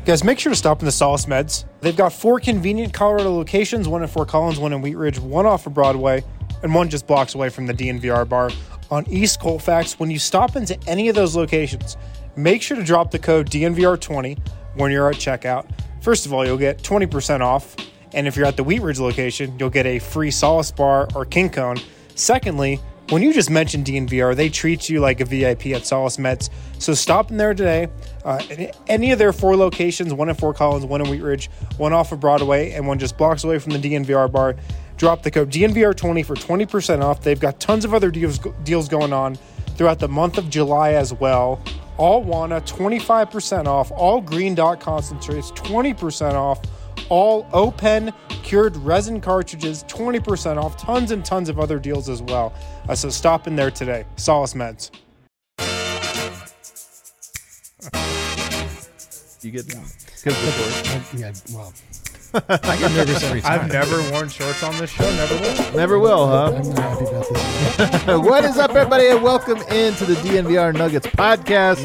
Guys, make sure to stop in the Solace Meds. They've got 4 convenient Colorado locations, 1 in Fort Collins, 1 in Wheat Ridge, 1 off of Broadway, and 1 just blocks away from the DNVR bar on East Colfax. When you stop into any of those locations, make sure to drop the code DNVR20 when you're at checkout. First of all, you'll get 20% off, and if you're at the Wheat Ridge location, you'll get a free Solace bar or King Cone. Secondly, when you just mention DNVR, they treat you like a VIP at Solace Meds. So stop in there today. Any of their 4 locations, 1 in Fort Collins, 1 in Wheat Ridge, 1 off of Broadway, and 1 just blocks away from the DNVR bar. Drop the code DNVR20 for 20% off. They've got tons of other deals going on throughout the month of July as well. All Wana, 25% off. All Green Dot concentrates, 20% off. All O-Pen cured resin cartridges, 20% off. Tons and tons of other deals as well. So stop in there today. Solace Meds. You get Yeah, well, I get nervous every time. I've never worn shorts on this show. Never will. Never will, huh? I'm not happy about this. What is up, everybody, and welcome into the DNVR Nuggets podcast.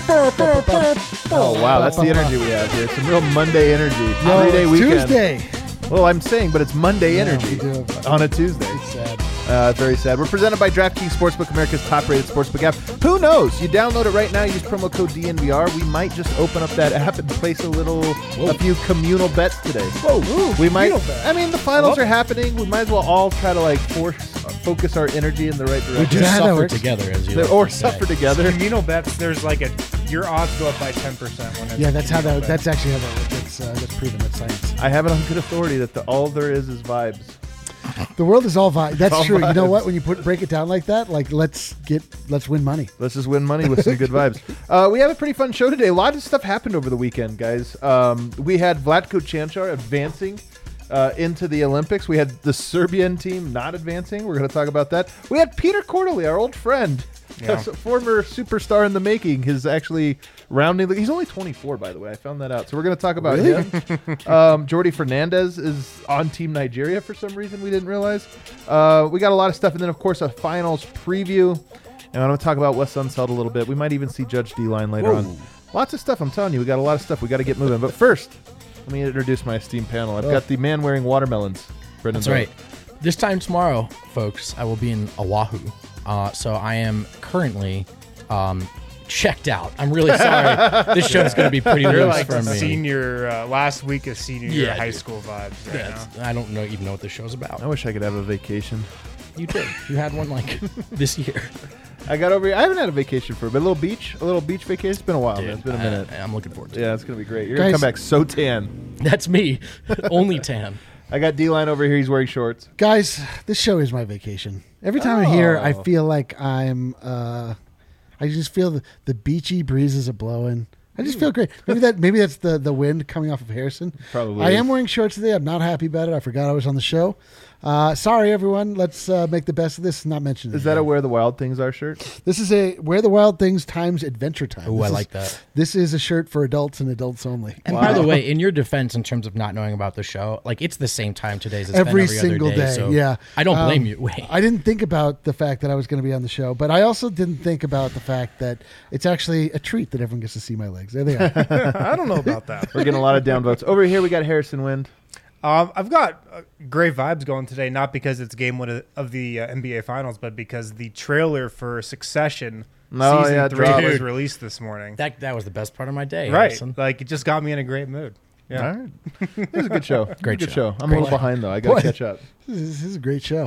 Oh, wow, that's the energy we have here. Some real Monday energy. No, 3-day it's weekend. Tuesday. Well, I'm saying, but it's Monday Yeah, energy we do. on a Tuesday. It's sad. Very sad. We're presented by DraftKings Sportsbook, America's top-rated sportsbook app. Who knows? You download it right now. Use promo code DNVR. We might just open up that app and place a few communal bets today. Whoa, We might. bet. I mean, the finals are happening. We might as well all try to focus our energy in the right We direction. do Is that how it suffer works? together, as you Or like to say. suffer together. Communal bets, there's your odds go up by 10% when it's Yeah, that's how communal that. bet. That's actually how that works. That's proven. That's science. I have it on good authority that all there is vibes. The world is all vibes. That's all true. You know vibes. what? When you break it down like that, let's win money. Let's just win money with some good vibes. We have a pretty fun show today. A lot of stuff happened over the weekend, guys. We had Vlatko Cancar advancing into the Olympics. We had the Serbian team not advancing. We're going to talk about that. We had Peter Quarterly, our old friend, a former superstar in the making. His actually rounding. He's only 24, by the way. I found that out. So we're going to talk about him. Jordi Fernandez is on Team Nigeria for some reason we didn't realize. We got a lot of stuff. And then, of course, a finals preview. And I'm going to talk about Wes Unseld a little bit. We might even see Judge D-Line later on. Lots of stuff. I'm telling you, we got a lot of stuff. We got to get moving. But first, let me introduce my esteemed panel. I've got the man wearing watermelons. Brendan That's right. This time tomorrow, folks, I will be in Oahu. So I am currently checked out. I'm really sorry. This show's going to be pretty You're loose like for me. senior, last week of senior year Yeah, high dude. school vibes right now. I don't even know what this show's about. I wish I could have a vacation. You did. You had one like this year. I got over here. I haven't had a vacation for a bit. A little beach vacation. It's been a while, man. Dude, It's been a minute. I'm looking forward to it. Yeah, it's going to be great. You're going to Guys- come back so tan. That's me. Only tan. I got D-Line over here. He's wearing shorts. Guys, this show is my vacation. Every time I'm here, I feel like I'm. I just feel the beachy breezes are blowing. I just feel great. Maybe that's the wind coming off of Harrison. Probably I is. am wearing shorts today. I'm not happy about it. I forgot I was on the show. Sorry, everyone. Let's make the best of this. Not mention it. Is that a Where the Wild Things Are shirt? This is a Where the Wild Things times Adventure Time. Oh, This I is- like that. This is a shirt for adults and adults only. And by the way, in your defense, in terms of not knowing about the show, like it's the same time today as it's Every been single other day. day, So yeah. I don't blame you. Wait. I didn't think about the fact that I was going to be on the show, but I also didn't think about the fact that it's actually a treat that everyone gets to see my legs. There they are. I don't know about that. We're getting a lot of downvotes. Over here, we got Harrison Wind. I've got great vibes going today, not because it's game one of the NBA Finals, but because the trailer for Succession season 3 dropped. was released this morning. That was the best part of my day. Right. Harrison. Like, it just got me in a great mood. Yeah. All right. It was a good show. Great good show. show. I'm Great a little show. behind, though. I got to Boy. catch up. This is a great show.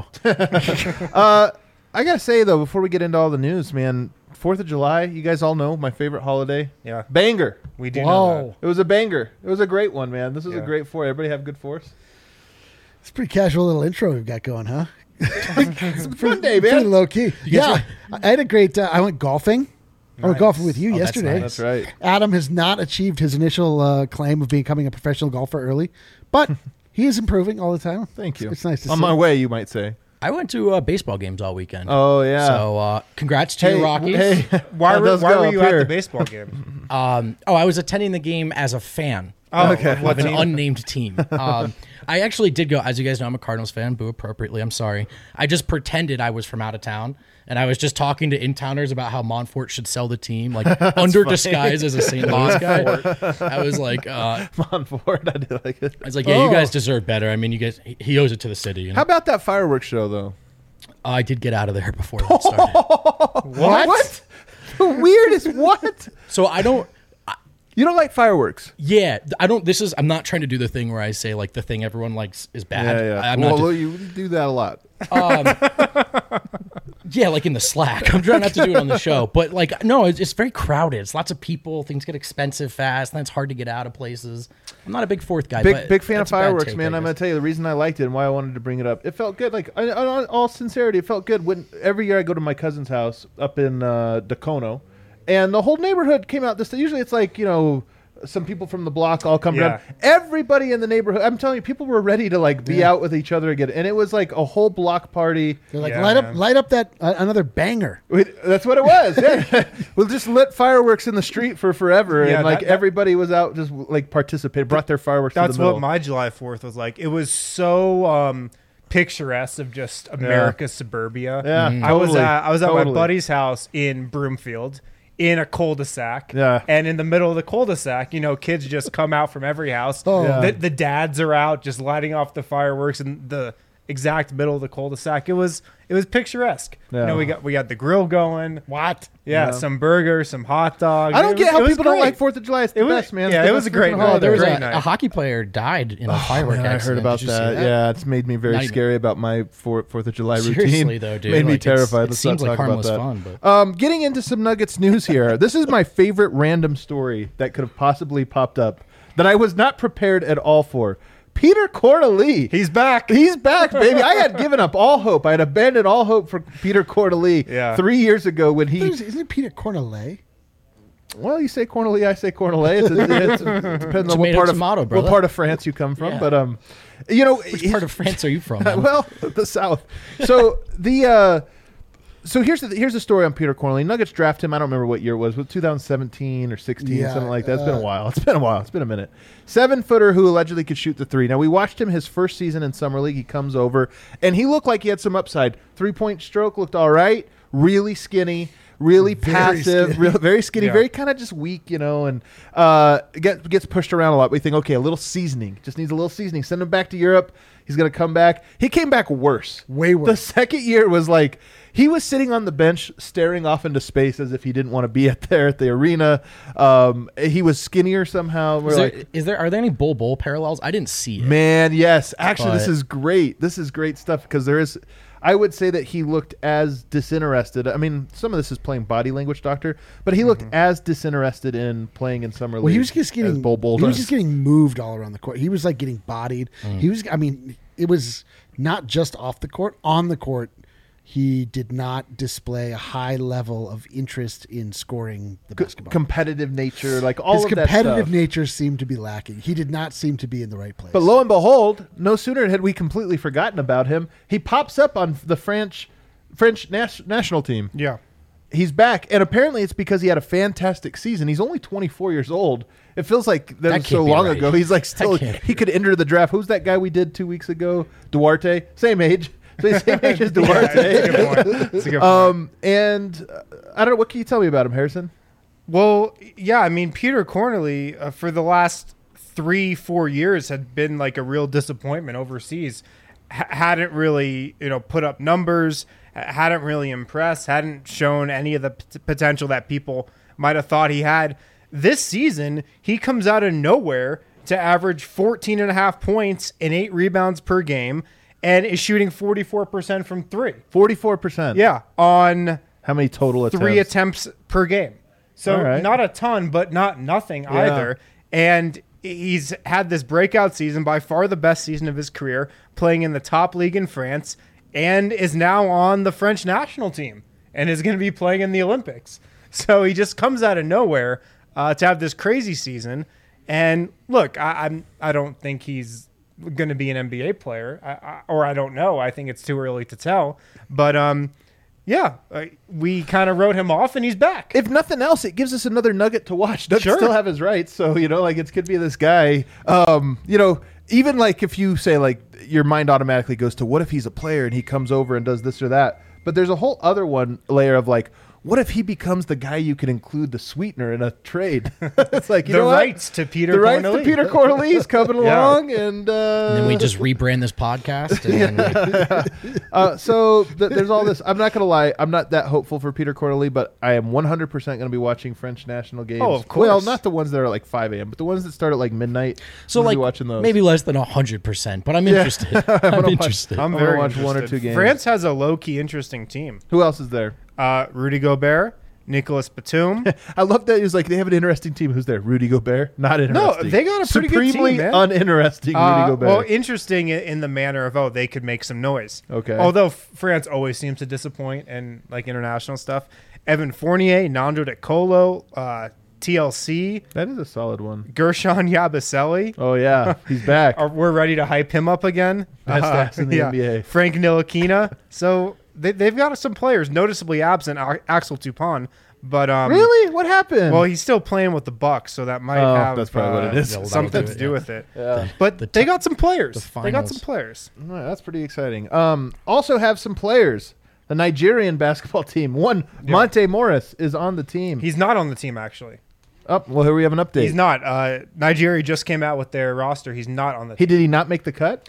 I got to say, though, before we get into all the news, man, 4th of July, you guys all know my favorite holiday. Yeah. Banger. We do know Whoa. It was a banger. It was a great one, man. This was a Yeah. great 4th. Everybody have good 4th? It's a pretty casual little intro we've got going, huh? It's a fun day, Pretty man. low key. Yeah. I had a great, I went golfing. I went Nice. golfing with you Oh, that's yesterday. nice. That's right. Adam has not achieved his initial claim of becoming a professional golfer early, but he is improving all the time. Thank you. It's nice to On see. my way, you might say. I went to baseball games all weekend. Oh, yeah. So congrats to your Rockies. Hey, Why how'd were those go you up at here? the baseball game? I was attending the game as a fan. Oh, Okay. of what an team? unnamed team. I actually did go. As you guys know, I'm a Cardinals fan. Boo appropriately. I'm sorry. I just pretended I was from out of town, and I was just talking to in-towners about how Montfort should sell the team, like under disguise as a St. Louis guy. I was like, Montfort, I did like it. I was like, yeah, you guys deserve better. I mean, you guys, he owes it to the city. You know? How about that fireworks show, though? I did get out of there before that started. What? The weirdest what? So I don't. You don't like fireworks? Yeah, I don't. I'm not trying to do the thing where I say like the thing everyone likes is bad. I'm well, not. you do that a lot. Yeah, like in the Slack. I'm trying not to do it on the show, but like, no, it's very crowded. It's lots of people. Things get expensive fast, and it's hard to get out of places. I'm not a big Fourth guy. but Big fan of that's a bad fireworks, take, man. I I'm guess. gonna tell you the reason I liked it and why I wanted to bring it up. It felt good. Like, in all sincerity, it felt good when every year I go to my cousin's house up in Dacono, and the whole neighborhood came out. Usually it's like, some people from the block all come down. Everybody in the neighborhood, I'm telling you, people were ready to like be out with each other again, and it was like a whole block party. They're like, Yeah, light up that another banger. That's what it was. Yeah. We'll just lit fireworks in the street for forever, Yeah, and like that- everybody was out just like participated, brought their fireworks. That's to the middle. what my July 4th was like. It was so picturesque of just America's suburbia. Yeah, I was totally. at my Totally. buddy's house in Broomfield in a cul-de-sac. Yeah. And in the middle of the cul-de-sac, kids just come out from every house. Oh. Yeah. The dads are out just lighting off the fireworks in the exact middle of the cul-de-sac. It was picturesque. Yeah. We got the grill going. What? Yeah, Yeah. some burgers, some hot dogs. I don't get how people don't great. like 4th of July. It's the It was- best, man. yeah, It's the it was best a great freaking night. holiday. There was Great a night. hockey player died in a firework Man, I accident. heard about Did you see that. Yeah, it's made me very Not even- scary about my 4th of July routine. Seriously, though, dude. Made me Like, it's- terrified. it Let's seems not like talk about harmless that. fun, but Getting into some Nuggets news here. This is my favorite random story that could have possibly popped up that I was not prepared at all for. Peter Corneli. He's back. He's back, baby. I had given up all hope. I had abandoned all hope for Peter Corneli Yeah. 3 years ago when he. Isn't it Peter Cornelet? Well, you say Corneli, I say Cornelet. It depends on what Tomato, part tomato, of brother. what part of France you come from. Yeah. But which part of France are you from? man? well, the South. So so here's the story on Peter Corneli. Nuggets draft him. I don't remember what year it was. 2017 or 16, Yeah, something like that. It's been a while. It's been a while. It's been a minute. 7-footer who allegedly could shoot the three. Now we watched him his first season in summer league. He comes over and he looked like he had some upside. 3-point stroke looked all right. Really skinny. Really passive, skinny. very skinny, Yeah. very kind of just weak, and gets pushed around a lot. We think, okay, a little seasoning, just needs a little seasoning. Send him back to Europe. He's gonna come back. He came back worse, Way worse. The second year was like he was sitting on the bench, staring off into space as if he didn't want to be there at the arena. He was skinnier somehow. We're like, Are there any bull parallels? I didn't see it. man, yes. Actually, this But- is great. This is great stuff because there is. I would say that he looked as disinterested. I mean, some of this is playing body language, doctor, but he looked as disinterested in playing in summer league. Well, he was just as getting Bull he was does. just getting moved all around the court. He was like getting bodied. He was. I mean, it was not just off the court. On the court, he did not display a high level of interest in scoring the basketball. competitive nature, like all His of that competitive stuff. nature seemed to be lacking. He did not seem to be in the right place. But lo and behold, no sooner had we completely forgotten about him, he pops up on the French national team. Yeah. He's back, and apparently it's because he had a fantastic season. He's only 24 years old. It feels like that was can't so be long right. ago. He's like still can't be he could enter the draft. Who's that guy we did 2 weeks ago? Duarte, same age. So he's same age as That's Duarte. a good point. That's a good point. And I don't know. What can you tell me about him, Harrison? Well, yeah, I mean, Peter Corneli for the last 3-4 years had been like a real disappointment overseas. Hadn't really, put up numbers, hadn't really impressed, hadn't shown any of the potential that people might have thought he had. This season, he comes out of nowhere to average 14.5 points and 8 rebounds per game and is shooting 44% from three. 44%. Yeah, on How many total attempts? 3 attempts per game. So All right. not a ton, but not nothing either. And he's had this breakout season, by far the best season of his career, playing in the top league in France, and is now on the French national team and is going to be playing in the Olympics. So he just comes out of nowhere to have this crazy season. And look, I don't think he's going to be an NBA player, or I don't know. I think it's too early to tell. But Yeah, we kind of wrote him off, and he's back. If nothing else, it gives us another nugget to watch. Doug Sure. still have his rights, so like it could be this guy. Even like if you say like your mind automatically goes to what if he's a player and he comes over and does this or that, but there's a whole other layer of like, what if he becomes the guy you can include the sweetener in a trade? It's like the rights to Peter the rights Corneli. to Peter Corneli's coming Yeah. along, and then we just rebrand this podcast. And there's all this. I'm not gonna lie, I'm not that hopeful for Peter Corneli, but I am 100% gonna be watching French national games. Oh, of course. Well, not the ones that are like 5 a.m., but the ones that start at like midnight. so I'm gonna like be watching those. maybe less than 100%, but I'm interested. I'm interested. I'm I'm very gonna watch one or interested. two games. France has a low-key interesting team. Who else is there? Rudy Gobert, Nicolas Batum. I love that. He was like, they have an interesting team. Who's there? Rudy Gobert? Not interesting. they got a pretty good Supremely team, man. uninteresting Rudy Gobert. Well, interesting in the manner of, they could make some noise. Okay. Although France always seems to disappoint in like international stuff. Evan Fournier, Nando De Colo, TLC, that is a solid one. Gershon Yabusele. Oh, yeah. He's back. We're ready to hype him up again. Best ass in the NBA. Frank Ntilikina. So they've got some players noticeably absent. Axel Toupon, but Really? What happened? well, he's still playing with the Bucks, so that might have that's probably what it is. That'll something do to it, do yeah. with it. yeah. But they got some players. the They got some finals. players. All right, that's pretty exciting. Also have some players. The Nigerian basketball team. Monte Morris is on the team. He's not on the team, actually. Well, here we have an update. He's not. Nigeria just came out with their roster. He's not on the team. Did he not make the cut?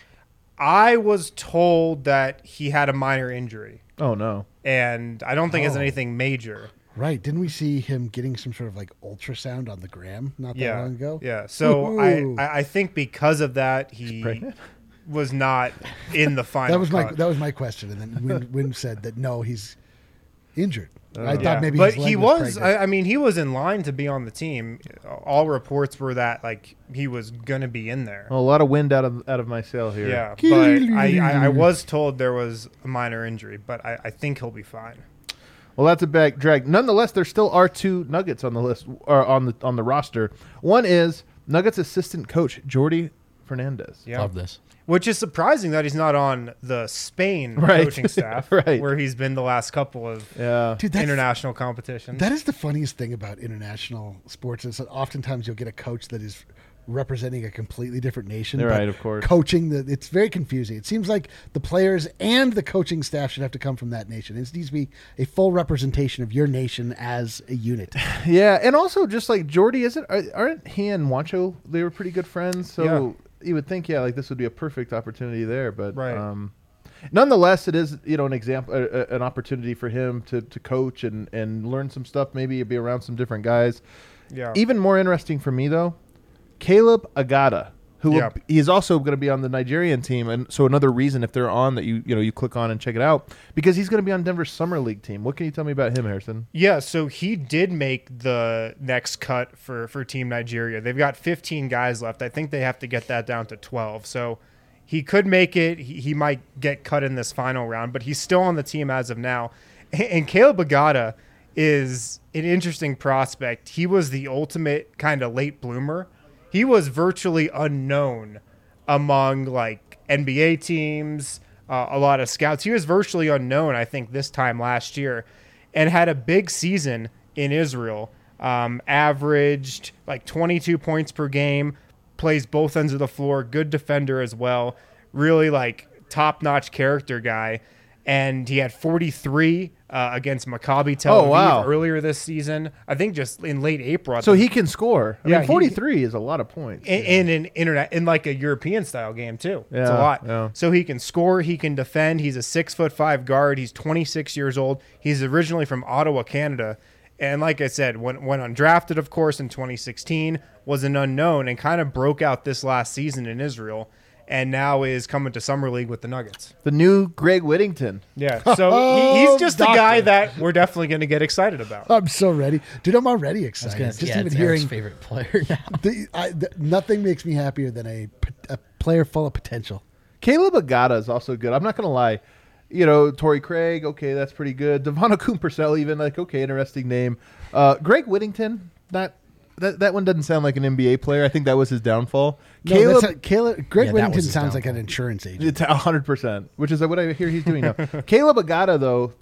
I was told that he had a minor injury, Oh, no. and I don't think it's Oh. anything major. Right. Didn't we see him getting some sort of like ultrasound on the gram not that long ago? Yeah. So Ooh. I think because of that, he pregnant? was not in the final. That was my question. And then Win said that no, he's injured. I thought maybe but his leg he was was. pregnant. I mean, he was in line to be on the team. All reports were that like he was gonna be in there. Well, a lot of wind out of my sail here. Yeah, but I was told there was a minor injury, but I think he'll be fine. Well, that's a back drag. Nonetheless, there still are two Nuggets on the list or on the roster. One is Nuggets assistant coach Jordi Fernandez. Yeah. Love this. Which is surprising that he's not on the Spain Right. coaching staff, Right. where he's been the last couple of Yeah. Dude, that's, international competitions. that is the funniest thing about international sports is that oftentimes you'll get a coach that is representing a completely different nation. You're but right, of course. Coaching it's very confusing. It seems like the players and the coaching staff should have to come from that nation. It needs to be a full representation of your nation as a unit. Yeah, and also just like Jordi, aren't he and Juancho? They were pretty good friends, so Yeah. you would think, like this would be a perfect opportunity there. But Right. nonetheless, it is an example, an opportunity for him to coach and learn some stuff. Maybe be around some different guys. yeah. Even more interesting for me though, Caleb Agada, who Yeah. he's also going to be on the Nigerian team, and so another reason if they're on that you click on and check it out because he's going to be on Denver's summer league team. What can you tell me about him, Harrison? Yeah, so he did make the next cut for Team Nigeria. They've got 15 guys left. I think they have to get that down to 12. So he could make it. He might get cut in this final round, but he's still on the team as of now. And Caleb Agada is an interesting prospect. He was the ultimate kind of late bloomer. He was virtually unknown among like NBA teams, a lot of scouts. He was virtually unknown, I think, this time last year, and had a big season in Israel. Averaged like 22 points per game, plays both ends of the floor, good defender as well, really like top-notch character guy. And he had 43 against Maccabi Tel Aviv wow. earlier this season. I think just in late April. So he can score. I Yeah, mean, 43 is a lot of points. in an internet in like a European style game too. It's a Yeah, lot. yeah. So he can score, he can defend. He's a 6'5" guard. He's 26 years old. He's originally from Ottawa, Canada. And like I said, went undrafted, of course, in 2016, was an unknown and kind of broke out this last season in Israel, and now is coming to Summer League with the Nuggets. The new Greg Whittington. Yeah, so he's just the Doctor. guy that we're definitely going to get excited about. I'm so ready. Dude, I'm already I was excited. gonna, Just yeah, even it's hearing Eric's favorite player now. nothing makes me happier than a player full of potential. Caleb Agada is also good. I'm not going to lie. Torrey Craig, okay, that's pretty good. Devon Purcell, even, like, okay, interesting name. Greg Whittington, that one doesn't sound like an NBA player. I think that was his downfall. Greg Yeah, that Whittington was his sounds like an downfall. insurance agent. It's 100%, which is what I hear he's doing now. Caleb Agada, though, that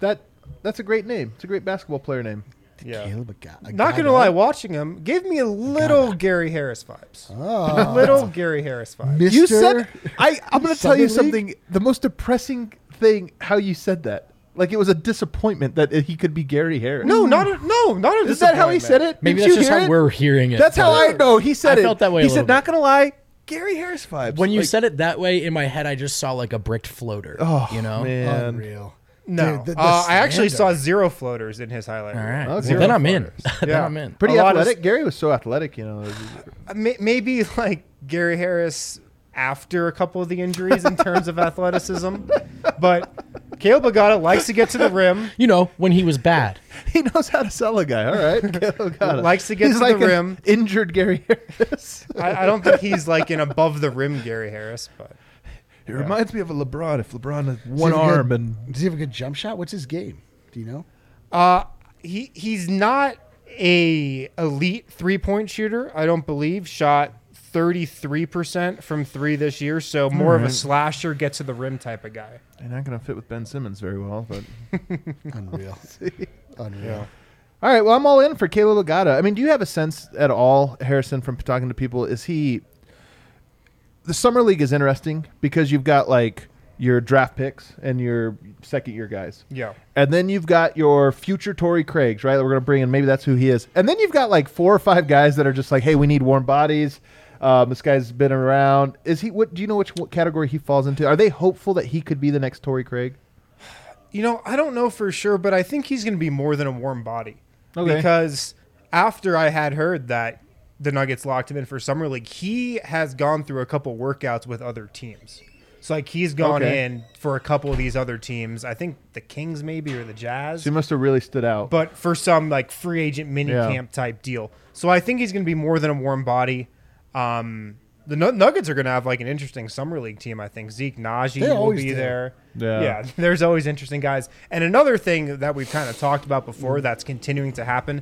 That's a great name. It's a great basketball player name. Yeah. Caleb Not gonna lie, watching him gave me a little Gary Harris vibes. Oh. Little Gary Harris vibes. Mr. You said I'm going to tell you Summer League? something. The most depressing thing how you said that. Like it was a disappointment that he could be Gary Harris. No, not a Is that how he said it? Maybe Did that's you just hear how it? we're hearing it. That's how I know. He said I it. felt that way He a little said, "Not gonna lie, Gary Harris vibes." When you Like, said it that way, in my head, I just saw like a bricked floater. "Oh you know? man, Unreal. No, Dude, the I actually stand-up. saw 0 floaters in his highlight. All reel. right. Okay. Well, then I'm in. Floaters. Then Yeah. I'm in. pretty A lot of athletic." Gary was so athletic, Maybe like Gary Harris after a couple of the injuries in terms of athleticism, but Caleb Agata likes to get to the rim. You know, when he was bad. He knows how to sell a guy. All right, Got it. Likes to get He's to like the an rim. Injured Gary Harris. I don't think he's like an above the rim Gary Harris, but It reminds me of a LeBron. If LeBron had one Does he have a arm good- and does he have a good jump shot? What's his game? Do you know? he's not a elite 3-point shooter. I don't believe. Shot 33% from 3 this year, so more of a slasher, get to the rim type of guy. they're not going to fit with Ben Simmons very well. But Unreal. Unreal. all right, well, I'm all in for Caleb Agata. I mean, do you have a sense at all, Harrison, from talking to people? Is he? The summer league is interesting because you've got like your draft picks and your second-year guys. Yeah. And then you've got your future Torrey Craigs, right? That we're going to bring in. Maybe that's who he is. And then you've got like 4 or 5 guys that are just like, hey, we need warm bodies. This guy's been around. Is he? What do you know? What category he falls into? Are they hopeful that he could be the next Torrey Craig? You know, I don't know for sure, but I think he's going to be more than a warm body. Okay. Because after I had heard that the Nuggets locked him in for Summer League, he has gone through a couple workouts with other teams. So, like, he's gone in for a couple of these other teams. I think the Kings maybe or the Jazz. So he must have really stood out. But for some, like, free agent mini camp type deal. So I think he's going to be more than a warm body. The Nuggets are going to have, like, an interesting Summer League team, I think. Zeke Naji They will always be do. there. Yeah. There's always interesting guys. And another thing that we've kind of talked about before that's continuing to happen,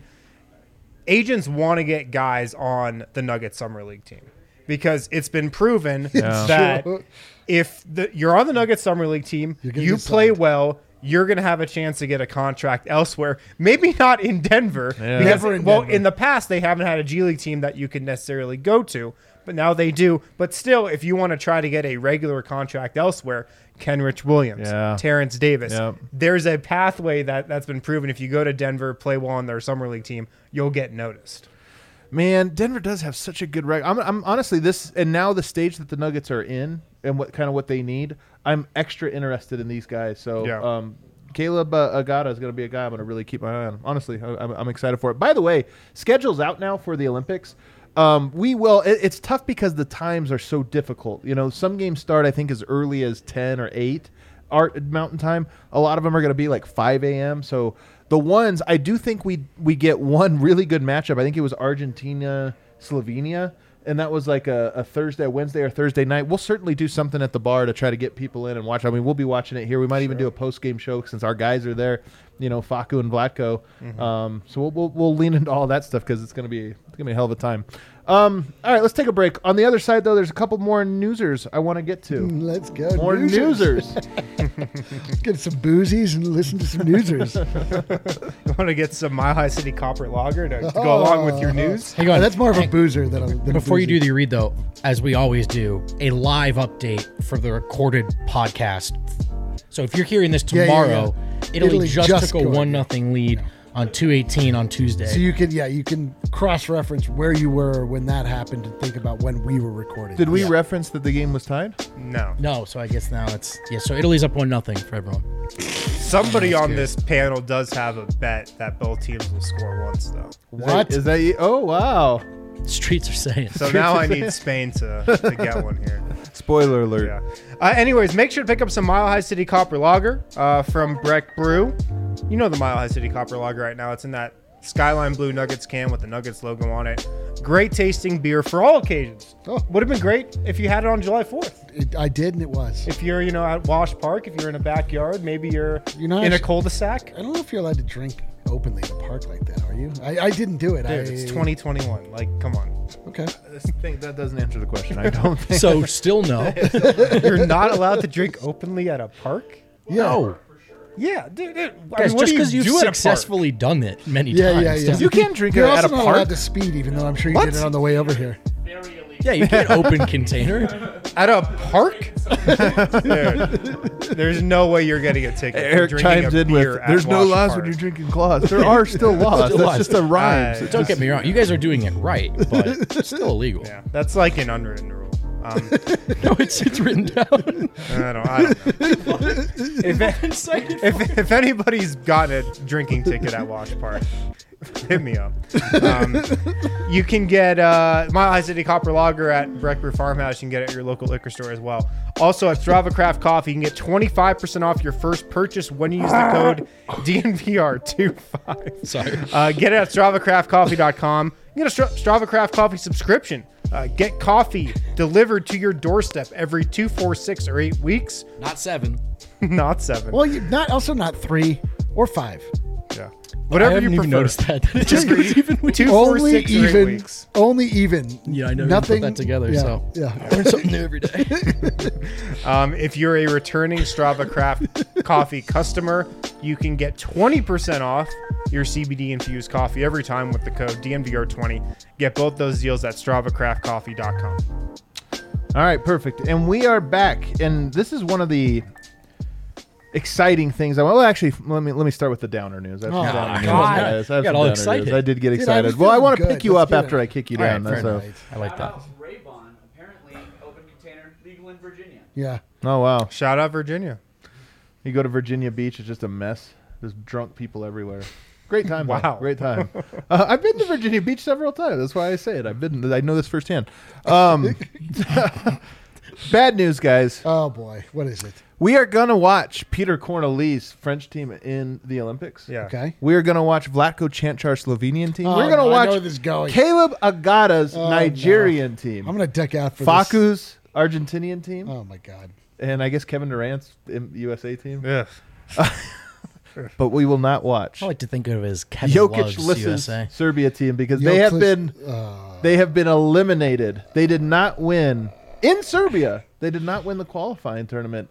agents want to get guys on the Nuggets Summer League team because it's been proven that if you're on the Nuggets Summer League team, You're gonna you get play signed. well, you're going to have a chance to get a contract elsewhere. Maybe not in Denver. Yeah. Because, Never in well, Denver. in the past, they haven't had a G League team that you could necessarily go to, but now they do. But still, if you want to try to get a regular contract elsewhere, Kenrich Williams, Yeah. Terrence Davis, Yep. there's a pathway that's been proven. If you go to Denver, play well on their Summer League team, you'll get noticed. Man, Denver does have such a good record. I'm honestly and now the stage that the Nuggets are in and what they need. I'm extra interested in these guys. So, Yeah. Caleb Agata is going to be a guy I'm going to really keep my eye on. Honestly, I'm excited for it. By the way, schedule's out now for the Olympics. It's tough because the times are so difficult. You know, some games start I think as early as 10 or 8 Mountain Time. A lot of them are going to be like 5 a.m. So the ones I do think we get one really good matchup. I think it was Argentina Slovenia, and that was like a Wednesday or Thursday night. We'll certainly do something at the bar to try to get people in and watch. I mean, we'll be watching it here. We might even do a post game show since our guys are there. You know, Facu and Vlatko. So we'll lean into all that stuff because it's gonna be a hell of a time. All right, let's take a break. On the other side, though, there's a couple more newsers I want to get to. Let's go. More Newsers. newsers. Get some boozies and listen to some newsers. You want to get some Mile High City Copper Lager to go along with your news? Hang on. That's more of a boozer than a Before you boozy. do the read, though, as we always do, a live update for the recorded podcast. So if you're hearing this Yeah, yeah, tomorrow, Italy just took a scored. 1-0 lead on 2:18 on Tuesday. So you can cross-reference where you were when that happened and think about when we were recording. Did we reference that the game was tied? No. no, so I guess now it's so Italy's up 1-0 for everyone. Somebody on this panel does have a bet that both teams will score once, though. What? Is that you? Oh, wow. Streets are saying. So now I need Spain to get one here. Spoiler alert. Yeah. Anyways, make sure to pick up some Mile High City Copper Lager from Breck Brew. You know the Mile High City Copper Lager right now. It's in that Skyline Blue Nuggets can with the Nuggets logo on it. Great tasting beer for all occasions. Oh. Would have been great if you had it on July 4th. I did, and it was. If you're, at Wash Park, if you're in a backyard, maybe you're not in a actually- cul-de-sac. I don't know if you're allowed to drink openly at a park like that, are you? I didn't do it. Dude, it's 2021. Like, come on. Okay. This thing, that doesn't answer the question. I don't think. So still no. You're not allowed to drink openly at a park? Yeah. No. Yeah, dude. I Guys, mean, what just do because you've do at a park? successfally done it many Yeah, times. yeah, yeah. doesn't- You can't drink it You're at also a not park. allowed to speed, even though I'm sure you What? did it on the way over here. Yeah, you can't open container. At a park? Dude, there's no way you're getting a ticket. for Eric drinking chimes a in beer with, at "There's no Wash laws Park." when you're drinking claws. There are still laws. Still That's laws. just a rhyme. So Don't get me wrong. You guys are doing it right, but it's still illegal. Yeah, that's like an unwritten rule. No, it's written down. I don't know. If anybody's gotten a drinking ticket at Wash Park, hit me up. You can get Mile High City Copper Lager at Breckler Farmhouse. You can get it at your local liquor store as well. Also at Strava Craft Coffee, you can get 25% off your first purchase when you use the code DNVR25. Sorry. Get it at StravaCraftCoffee.com. You get a Strava Craft Coffee subscription. Get coffee delivered to your doorstep every 2, 4, 6, or 8 weeks. Not 7. Not 7. Well, not 3 or 5. Yeah. I Whatever haven't you even prefer. noticed that. It just goes even weird. 2, 4, Only 6, or 8 even. weeks. Only even. Yeah, I know. Nothing. You put that together, Yeah, so yeah. learn something new every day. If you're a returning Strava Craft Coffee customer, you can get 20% off your CBD infused coffee every time with the code DNVR20. Get both those deals at StravaCraftCoffee.com. All right, perfect. And we are back, and this is one of the exciting things. Well, actually, let me start with the downer news. I have some Oh, downer news, God. guys. I have You some got all downer excited. news. I did get Dude, I excited. was Well, I feeling want to good. pick you Let's up get after it. I kick you All right, down. fair So. enough. I like that. Ray-Ban, apparently open container, legal in Virginia. Yeah. Oh wow! Shout out Virginia. You go to Virginia Beach, it's just a mess. There's drunk people everywhere. Great time. though. Wow. Great time. I've been to Virginia Beach several times. That's why I say it. I know this firsthand. Bad news, guys. Oh boy, what is it? We are gonna watch Peter Corneli's French team in the Olympics. Yeah. Okay. We are gonna watch Vlatko Čančar's Slovenian team. Oh, We're gonna no, I know where watch this is going. Caleb Agada's Oh, Nigerian team. I'm gonna duck out for this. Faku's Argentinian team, Oh my god. and I guess Kevin Durant's USA team. Ugh. But we will not watch I like to think of it as Kevin Jokic Love's Liss's USA. Serbia team because they have been eliminated. They did not win in Serbia. They did not win the qualifying tournament.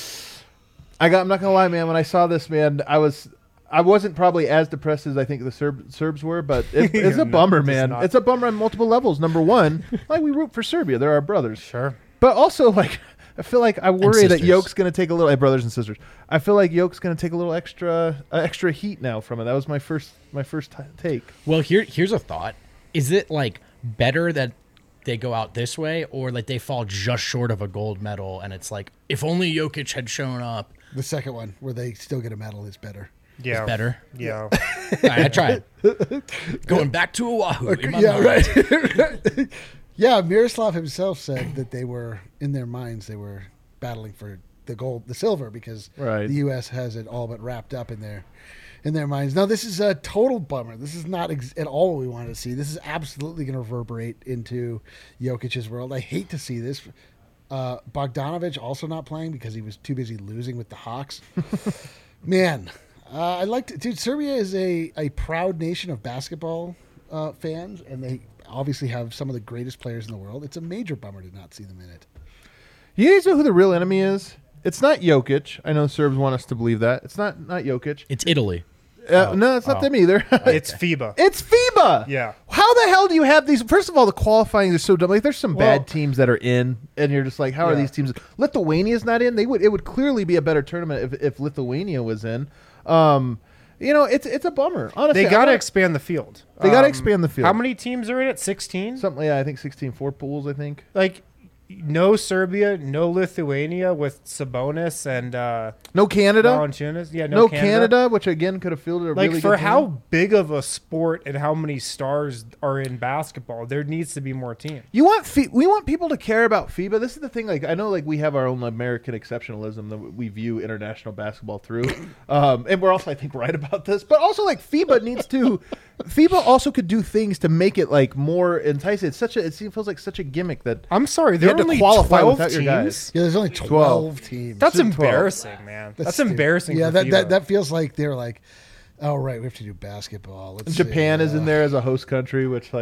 I'm not gonna lie, man. When I saw this, man, I wasn't probably as depressed as I think the Serbs were, but it's Yeah, a bummer, just man. not. It's a bummer on multiple levels. Number one, like we root for Serbia; they're our brothers. Sure. But also, like, I feel like I worry that sisters. Yoke's going to take a little. Brothers and sisters. I feel like Yoke's going to take a little extra heat now from it. That was my first take. Well, here's a thought. Is it like better that they go out this way, or like they fall just short of a gold medal and it's like, if only Jokic had shown up, The second one, where they still get a medal, is better. Yeah. better? Yeah. All right, I tried. Going back to Oahu. in my Yeah, mind. right. Yeah, Miroslav himself said that they were, in their minds, they were battling for the silver, because Right. the U.S. has it all but wrapped up in their minds. Now, this is a total bummer. This is not at all what we wanted to see. This is absolutely going to reverberate into Jokic's world. I hate to see this. Bogdanovich also not playing because he was too busy losing with the Hawks. Man, I like to. Dude, Serbia is a proud nation of basketball fans, and they obviously have some of the greatest players in the world. It's a major bummer to not see them in it. You guys know who the real enemy is? It's not Jokic. I know Serbs want us to believe that. It's not Jokic. It's Italy. No, it's not them either. It's FIBA. It's FIBA. Yeah. How the hell do you have these? First of all, the qualifying is so dumb. Like, there's some Well- bad teams that are in, and you're just like, how are Yeah. these teams? Lithuania's not in. It would clearly be a better tournament if Lithuania was in. It's a bummer. Honestly, They got to expand the field. They gotta expand the field. How many teams are in it? 16? something. Yeah, I think 16 4 pools. I think. Like, no Serbia, no Lithuania with Sabonis and No Canada. Valanciunas. Yeah, No Canada, which again could have fielded a Like, really for good how team. big of a sport and how many stars are in basketball, there needs to be more teams. We want people to care about FIBA. This is the thing. Like, I know, like, we have our own American exceptionalism that we view international basketball through, and we're also, I think, right about this. But also, like, FIBA needs to. FIBA also could do things to make it like more enticing. It feels like such a gimmick that I'm sorry, you there had are to only qualify 12 without your teams. guys. Yeah, there's only 12 teams. That's Should 12. embarrassing, man. That's stupid. embarrassing. Yeah, for that FIBA. feels like they're like, oh right, we have to do basketball. Let's Japan see, is in there as a host country, which like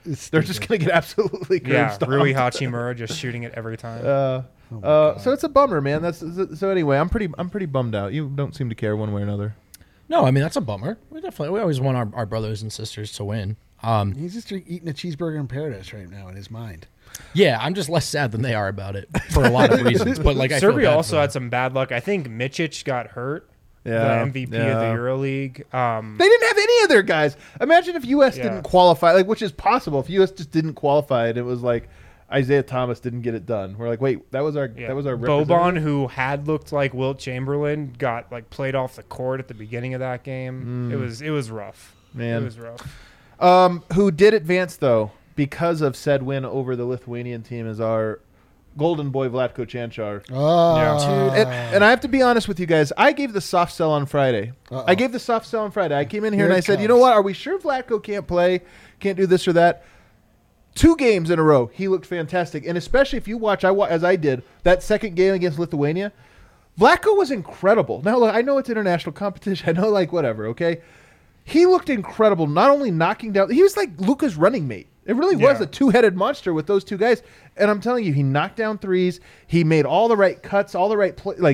They're just going to get absolutely curb Yeah, stomped. Rui Hachimura just shooting it every time. So it's a bummer, man. So anyway, I'm pretty bummed out. You don't seem to care one way or another. No, I mean that's a bummer. We always want our brothers and sisters to win. He's just eating a cheeseburger in paradise right now in his mind. Yeah, I'm just less sad than they are about it for a lot of reasons. But like, I feel Serbia bad also for had some bad luck. I think Micic got hurt. Yeah, The MVP of the EuroLeague. They didn't have any of their guys. Imagine if U.S. didn't qualify, like, which is possible. If U.S. just didn't qualify, and it was like Isaiah Thomas didn't get it done. We're like, wait, that was our Boban, representative? who had looked like Wilt Chamberlain, got like played off the court at the beginning of that game. It was rough. Man. It was rough. Who did advance though because of said win over the Lithuanian team is our golden boy Vlatko Čančar. Oh, And I have to be honest with you guys. I gave the soft sell on Friday. I gave the soft sell on Friday. I came in here and I said, you know what? Are we sure Vlatko can't play, can't do this or that? 2 games in a row, he looked fantastic. And especially if you watch, as I did, that second game against Lithuania, Vlatko was incredible. Now, look, I know it's international competition. I know, like, whatever, okay? He looked incredible, not only knocking down – he was like Luka's running mate. It really was a two-headed monster with those two guys. And I'm telling you, he knocked down threes. He made all the right cuts, all the right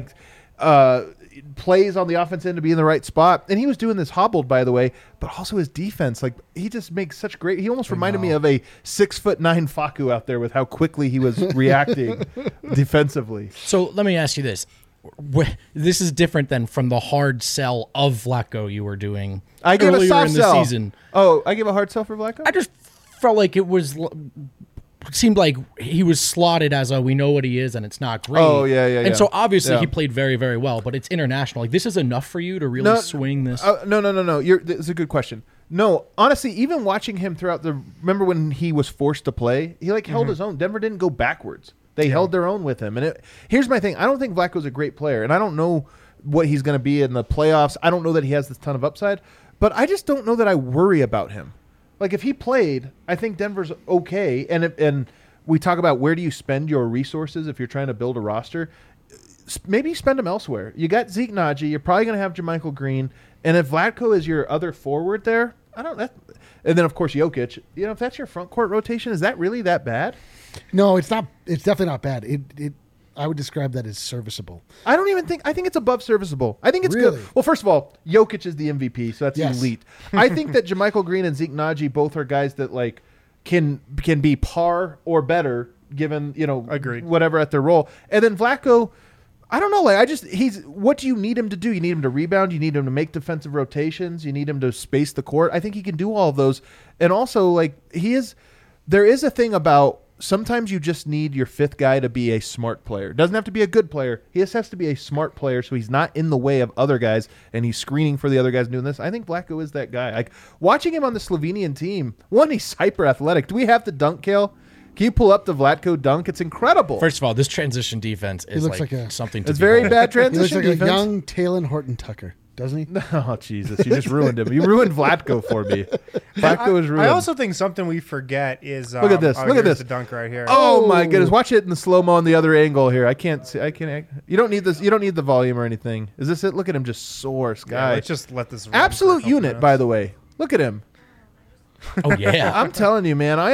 plays on the offense end to be in the right spot. And he was doing this hobbled, by the way, but also his defense. Like, he just makes such great – he almost reminded me of a 6'9" Facu out there with how quickly he was reacting defensively. So let me ask you this. This is different than from the hard sell of Vlatko you were doing I gave earlier a soft in the sell. season. Oh, I gave a hard sell for Vlatko? I just felt like it seemed like he was slotted as a we know what he is and it's not great. Oh, yeah. And so obviously Yeah. he played very, very well, but it's international. Like, this is enough for you to really swing this. No. It's a good question. No, honestly, even watching him throughout remember when he was forced to play, he held his own. Denver didn't go backwards. They held their own with him. And here's my thing. I don't think Vlatko's a great player, and I don't know what he's going to be in the playoffs. I don't know that he has this ton of upside, but I just don't know that I worry about him. Like, if he played, I think Denver's okay. And we talk about where do you spend your resources if you're trying to build a roster. Maybe spend them elsewhere. You got Zeke Naji. You're probably going to have JaMychal Green. And if Vlatko is your other forward there, and then, of course, Jokic. You know, if that's your front court rotation, is that really that bad? No, it's not. It's definitely not bad. I would describe that as serviceable. I think it's above serviceable. I think it's Really? good. Well, first of all, Jokic is the MVP, so that's Yes. elite. I think that JaMychal Green and Zeke Naji both are guys that can be par or better given, Agreed. whatever at their role. And then Vlatko, I don't know. What do you need him to do? You need him to rebound. You need him to make defensive rotations. You need him to space the court. I think he can do all of those. And also, there is a thing about sometimes you just need your fifth guy to be a smart player. Doesn't have to be a good player. He just has to be a smart player so he's not in the way of other guys and he's screening for the other guys doing this. I think Vlatko is that guy. Like, watching him on the Slovenian team, he's hyper athletic. Do we have the dunk, Kale? Can you pull up the Vlatko dunk? It's incredible. First of all, this transition defense is looks like like something to it's very behold. bad He looks transition like defense. a young Talon Horton Tucker, doesn't he? Oh, Jesus. You just ruined him. You ruined Vlatko for me. Vlatko is ruined. I also think something we forget is Look at this. Look at here's this. the dunk right here. Oh my goodness! Watch it in the slow mo on the other angle here. I can't see. You don't need this. You don't need the volume or anything. Is this it? Look at him, just soar, Yeah, guy. let's just let this run for a Absolute couple unit, minutes. by the way. Look at him. Oh yeah. I'm telling you, man.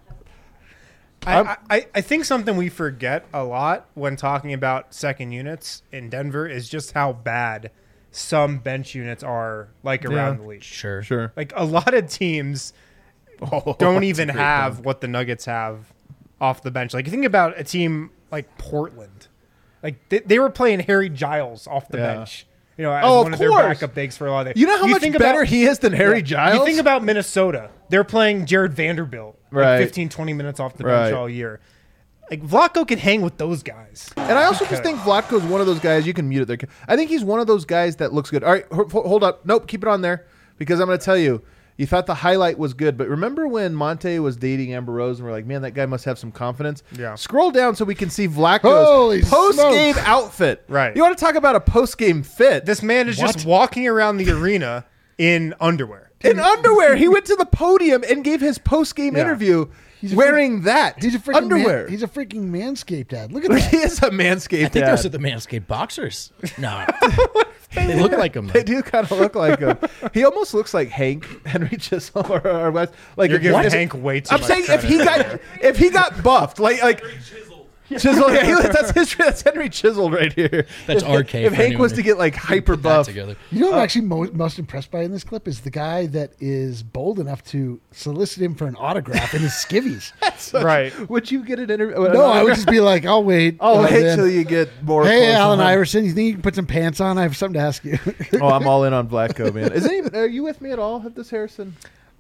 I think something we forget a lot when talking about second units in Denver is just how bad some bench units are around the league. Sure. Like, a lot of teams don't even have what the Nuggets have off the bench. Like, you think about a team like Portland. Like, they were playing Harry Giles off the bench. As Oh, one of of their course. backup bigs for a lot of You know how much better he is than Harry Giles? You think about Minnesota. They're playing Jared Vanderbilt Right. 15, 20 minutes off the bench Right. all year. Like, Vlatko can hang with those guys. And I also just think Vlatko's one of those guys. You can mute it there. I think he's one of those guys that looks good. All right, hold up. Nope, keep it on there because I'm going to tell you. You thought the highlight was good, but remember when Monte was dating Amber Rose and we're like, man, that guy must have some confidence? Yeah. Scroll down so we can see Holy Vlatko's post-game smokes. outfit. Right. You want to talk about a post-game fit? This man is just walking around the arena in underwear. In underwear. He went to the podium and gave his post-game Yeah. interview He's a wearing that. He's a freaking underwear. he's a freaking Manscaped dad. Look at he that. is a Manscaped I think dad. those are the Manscaped boxers. No. They look like him. They do kind of look like him. He almost looks like Henry Chisholm or West. Like You're giving if- Hank way too I'm much saying credit. if he got buffed, like Chisel, yeah, that's Henry Chiseled right here. That's RK If for Hank anyone was who to get like hyper put that buff, together. You know what I'm actually most impressed by in this clip is the guy that is bold enough to solicit him for an autograph in his skivvies. Right. would you get an interview? No, I would just be like, I'll wait. Oh, And wait then, till you get more. Hey, close Allen on him. Iverson, you think you can put some pants on? I have something to ask you. Oh, I'm all in on Vlatko, man. Are you with me at all at this, Harrison?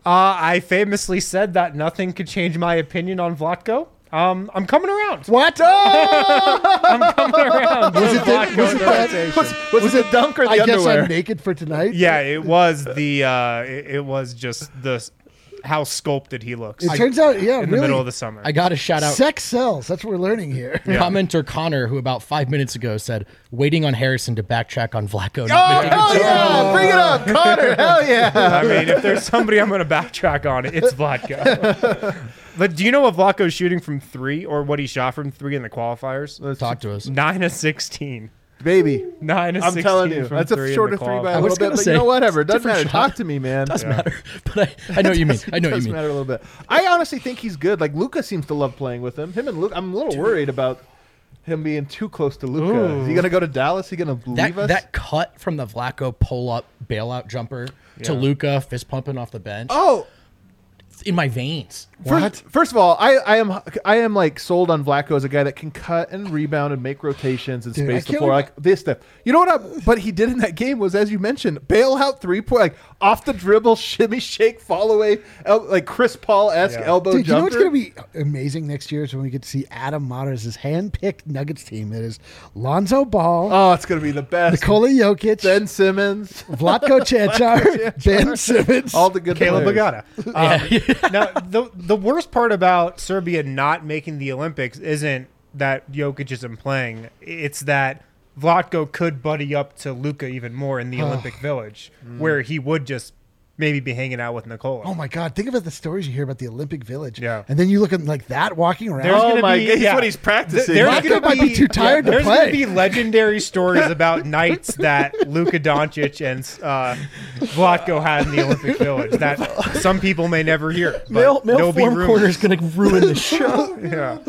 I famously said that nothing could change my opinion on Vlatko. I'm coming around. What? I'm coming around. Was it that- Vlatko was in it the that- rotation. Was it dunk or the I guess underwear? I'm naked for tonight. Yeah, it was the. It was just the how sculpted he looks. It turns out, yeah, in the really, middle of the summer. I got to shout out sex sells. That's what we're learning here. commenter Connor, who about 5 minutes ago said, waiting on Harrison to backtrack on Vlatko. Oh, Not making hell yeah! Bring it up, Connor. Hell yeah! I mean, if there's somebody I'm going to backtrack on, it's Vlatko. But do you know what Vlatko's shooting from three, or what he shot from three in the qualifiers? Talk to us. 9 of 16. Baby, 9 of I'm 16 telling you, from that's a three in shorter the three by I a was little bit. gonna But say, you know, whatever. It it's a doesn't matter. different shot. Talk to me, man. Does matter, but I know what you mean. I know what you Does mean. matter a little bit. I honestly think he's good. Like Luca seems to love playing with him. Him and Luca. I'm a little worried about him being too close to Luca. Is he gonna go to Dallas? Is he gonna leave us? That cut from the Vlatko pull up bailout jumper to Luka fist pumping off the bench. Oh, It's in my veins. First of all, I am like sold on Vlatko as a guy that can cut and rebound and make rotations and Dude, space I the can't floor, believe- like this stuff. You know what? But he did in that game was, as you mentioned, bail out 3-point, like off the dribble, shimmy, shake, fall away, like Chris Paul esque elbow Dude, you know what's jumper. going to be amazing next year is when we get to see Adam Mater's hand-picked Nuggets team. That is Lonzo Ball, Oh, it's gonna be the best. Nikola Jokic, Ben Simmons, Vlatko Čančar, Ben Simmons. all the good Caleb players. Bagata. Now, the worst part about Serbia not making the Olympics isn't that Jokic isn't playing. It's that Vlatko could buddy up to Luka even more in the Olympic Village, where he would just maybe be hanging out with Nikola. Oh my God! Think about the stories you hear about the Olympic Village. Yeah. and then you look at like that walking around. There's Oh gonna my be- God, he's yeah. what he's practicing. There's Vlatko gonna might be too tired to There's play. going to be legendary stories about nights that Luka Doncic and Vlatko had in the Olympic Village that some people may never hear. But there'll be rumors. corner is going to ruin the show. Yeah.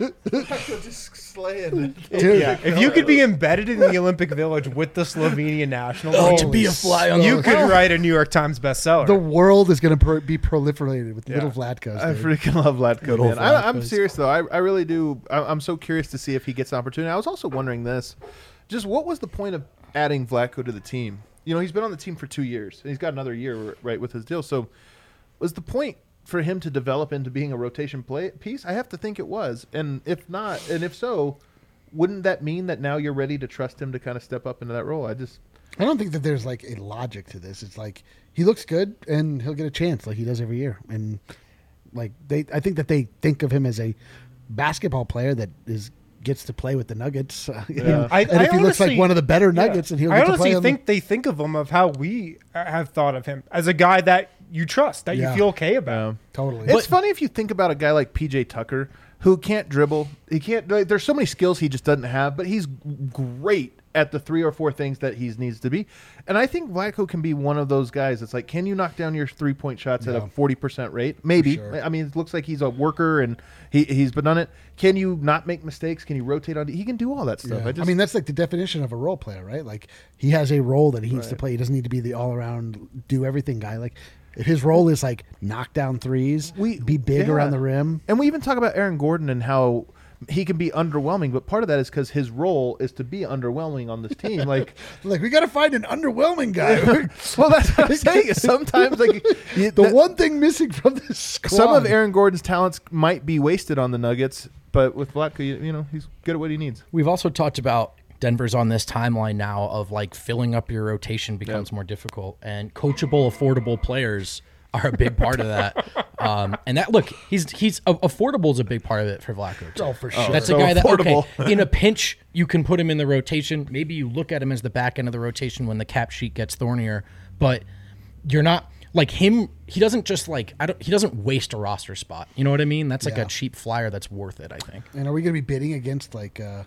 just slaying. Dude, Yeah. If you could be embedded in the Olympic Village with the Slovenian national team, to be a fly on you the could write a New York Times bestseller. the world is going to be proliferated with little Vlatkos. I dude. freaking love Vlatko, Little man. I'm Vlatko's. serious though. I really do. I'm so curious to see if he gets an opportunity. I was also wondering this: just what was the point of adding Vlatko to the team? You know, he's been on the team for 2 years, and he's got another year right with his deal. So, was the point for him to develop into being a rotation piece? I have to think it was. And if not, and if so, wouldn't that mean that now you're ready to trust him to kind of step up into that role? I don't think that there's like a logic to this. It's like he looks good and he'll get a chance like he does every year. And like I think that they think of him as a basketball player that gets to play with the Nuggets. And if he looks like one of the better Nuggets, and he'll I get to play honestly on think they think of him of how we have thought of him as a guy that you trust, that Yeah. you feel okay about. totally. It's funny if you think about a guy like PJ Tucker who can't dribble. He can't. Like, there's so many skills he just doesn't have, but he's great at the 3 or 4 things that he needs to be. And I think Vlatko can be one of those guys. It's like, can you knock down your 3-point shots at a 40% rate? Maybe. sure. I mean, it looks like he's a worker and he's been done it. Can you not make mistakes? Can you rotate on? He can do all that stuff. I mean, that's like the definition of a role player, right? Like he has a role that he needs to play. He doesn't need to be the all-around do everything guy. Like if his role is like knock down threes, be big yeah. around the rim. And we even talk about Aaron Gordon and how he can be underwhelming, but part of that is because his role is to be underwhelming on this team. Like we got to find an underwhelming guy. well, that's what I'm saying. Is sometimes like The one thing missing from this squad. some of Aaron Gordon's talents might be wasted on the Nuggets, but with Vlatko, you know, he's good at what he needs. We've also talked about Denver's on this timeline now of like filling up your rotation becomes more difficult, and coachable, affordable players are a big part of that. And that look, he's affordable is a big part of it for Vlatko too. Oh, for sure. That's So a guy that affordable. in a pinch you can put him in the rotation. Maybe you look at him as the back end of the rotation when the cap sheet gets thornier, but you're not like him. He doesn't just like he doesn't waste a roster spot. You know what I mean? That's like Yeah. a cheap flyer that's worth it, I think. And are we going to be bidding against like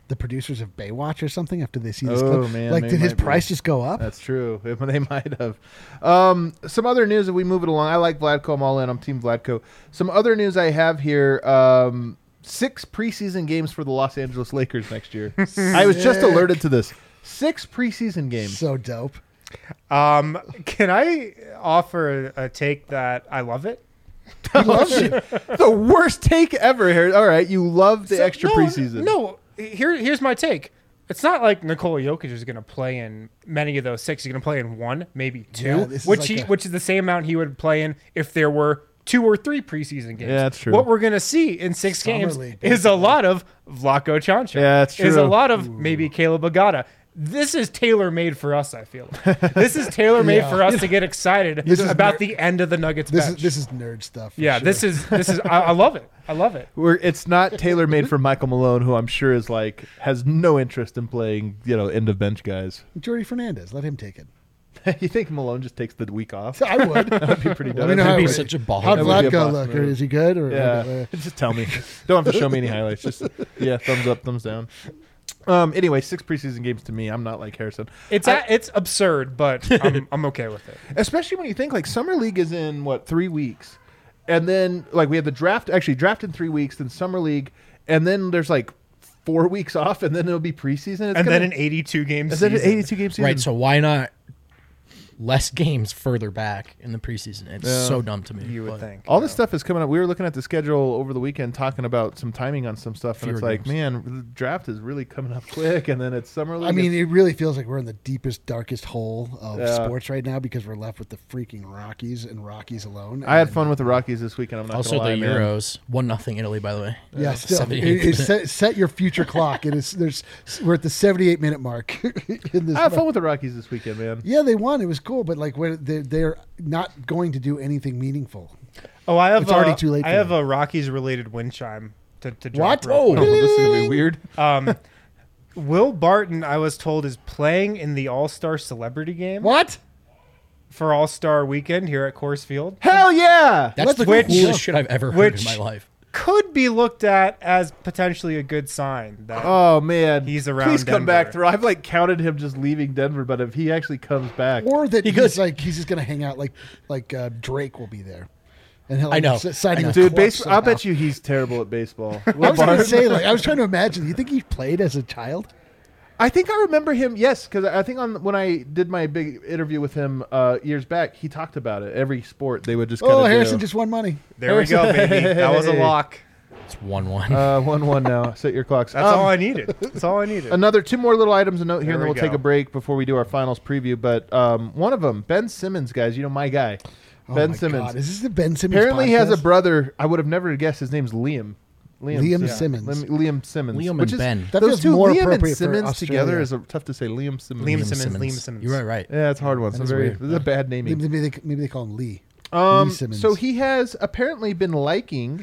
the producers of Baywatch or something after they see this Oh, clip? man, Like, they did his might be. price just go up? That's true. They might have. Some other news, if we move it along. I like Vladko. I'm all in. I'm Team Vladko. Some other news I have here. 6 preseason games for the Los Angeles Lakers next year. I was just alerted to this. 6 preseason games. So dope. Can I offer a take that I love it? The worst take ever here. All right, you love the extra No, preseason. No, here's my take. It's not like Nikola Jokic is going to play in many of those 6. He's going to play in 1, maybe 2, Yeah, this is which like which is the same amount he would play in if there were 2 or 3 preseason games. Yeah, that's true. What we're going to see in 6 Summer games League, is a lot of Vlatko Čančar. Yeah, that's Is a true. lot of maybe Caleb Agata. This is tailor-made for us, I feel. This is tailor-made Yeah. for us to get excited This is about ner- the end of the Nuggets This bench. is nerd stuff. for yeah, sure. this is I love it. I love it. It's not tailor made for Michael Malone, who I'm sure is like has no interest in playing, end of bench guys. Jordy Fernandez. Let him take it. You think Malone just takes the week off? I would. That'd be pretty Let me dope. know how That'd be it- such a ball. How'd That would be a Vlatko boss look? Or move. is he good? Or Yeah, just tell me. Don't have to show me any highlights. Just thumbs up, thumbs down. Anyway, 6 preseason games to me. I'm not like Harrison. It's absurd, but I'm okay with it. Especially when you think like summer league is in 3 weeks, and then like we have the draft. Actually, draft in 3 weeks, then summer league, and then there's like 4 weeks off, and then it'll be preseason. And then an 82 game is season. it an 82 game season? Right, so why not less games further back in the preseason? It's so dumb to me. You would but think. All this stuff is coming up. We were looking at the schedule over the weekend, talking about some timing on some stuff, and Fewer it's like, games. man, the draft is really coming up quick, and then it's summer league. I mean, it really feels like we're in the deepest, darkest hole of Yeah. sports right now because we're left with the freaking Rockies and Rockies alone. I had And, fun with the Rockies this weekend. I'm not also gonna the lie, man. Euros 1-0 Italy, by the way. Yeah, still, 78 set your future clock. We're at the 78-minute mark. In this I had fun with the Rockies this weekend, man. Yeah, they won. It was cool, but like when they're not going to do anything meaningful. Oh, I have It's already too late I for have them. a Rockies related wind chime to drop. What? real Oh, quick. this is gonna be weird. Will Barton, I was told, is playing in the All-Star Celebrity Game What? for All-Star Weekend here at Coors Field. Hell yeah! That's the Which- coolest shit I've ever heard in which- my life. Could be looked at as potentially a good sign that Oh man, He's around Please come Denver. back through. I've like counted him just leaving Denver, but if he actually comes back, Or that He he's goes- like he's just gonna hang out like Drake will be there, and he'll I know. signing a dude, clutch I'll bet somehow. you he's terrible at baseball. I was gonna say like I was trying to imagine. You think he played as a child? I think I remember him. Yes, because I think when I did my big interview with him years back, he talked about it. Every sport they would just. Oh, Harrison just won money. there we go, baby. That was a lock. It's 1-1. 1-1 now. Set your clocks. That's all I needed. That's all I needed. Another 2 more little items to note here, and There then we we'll take go. a break before we do our finals preview. But one of them, Ben Simmons, guys. My guy, Oh Ben my Simmons. God. Is this the Ben Simmons? Apparently, he has a podcast? brother. I would have never guessed his name's Liam. Liam Simmons. Liam Simmons. Liam which and is, Ben. That those feels two, more Liam and appropriate for Simmons Australia. together is tough to say. Liam Simmons. Liam Simmons. You're right. Yeah, it's a hard one. That So is very, weird. this is a bad naming. Maybe they call him Lee. Lee Simmons. So he has apparently been liking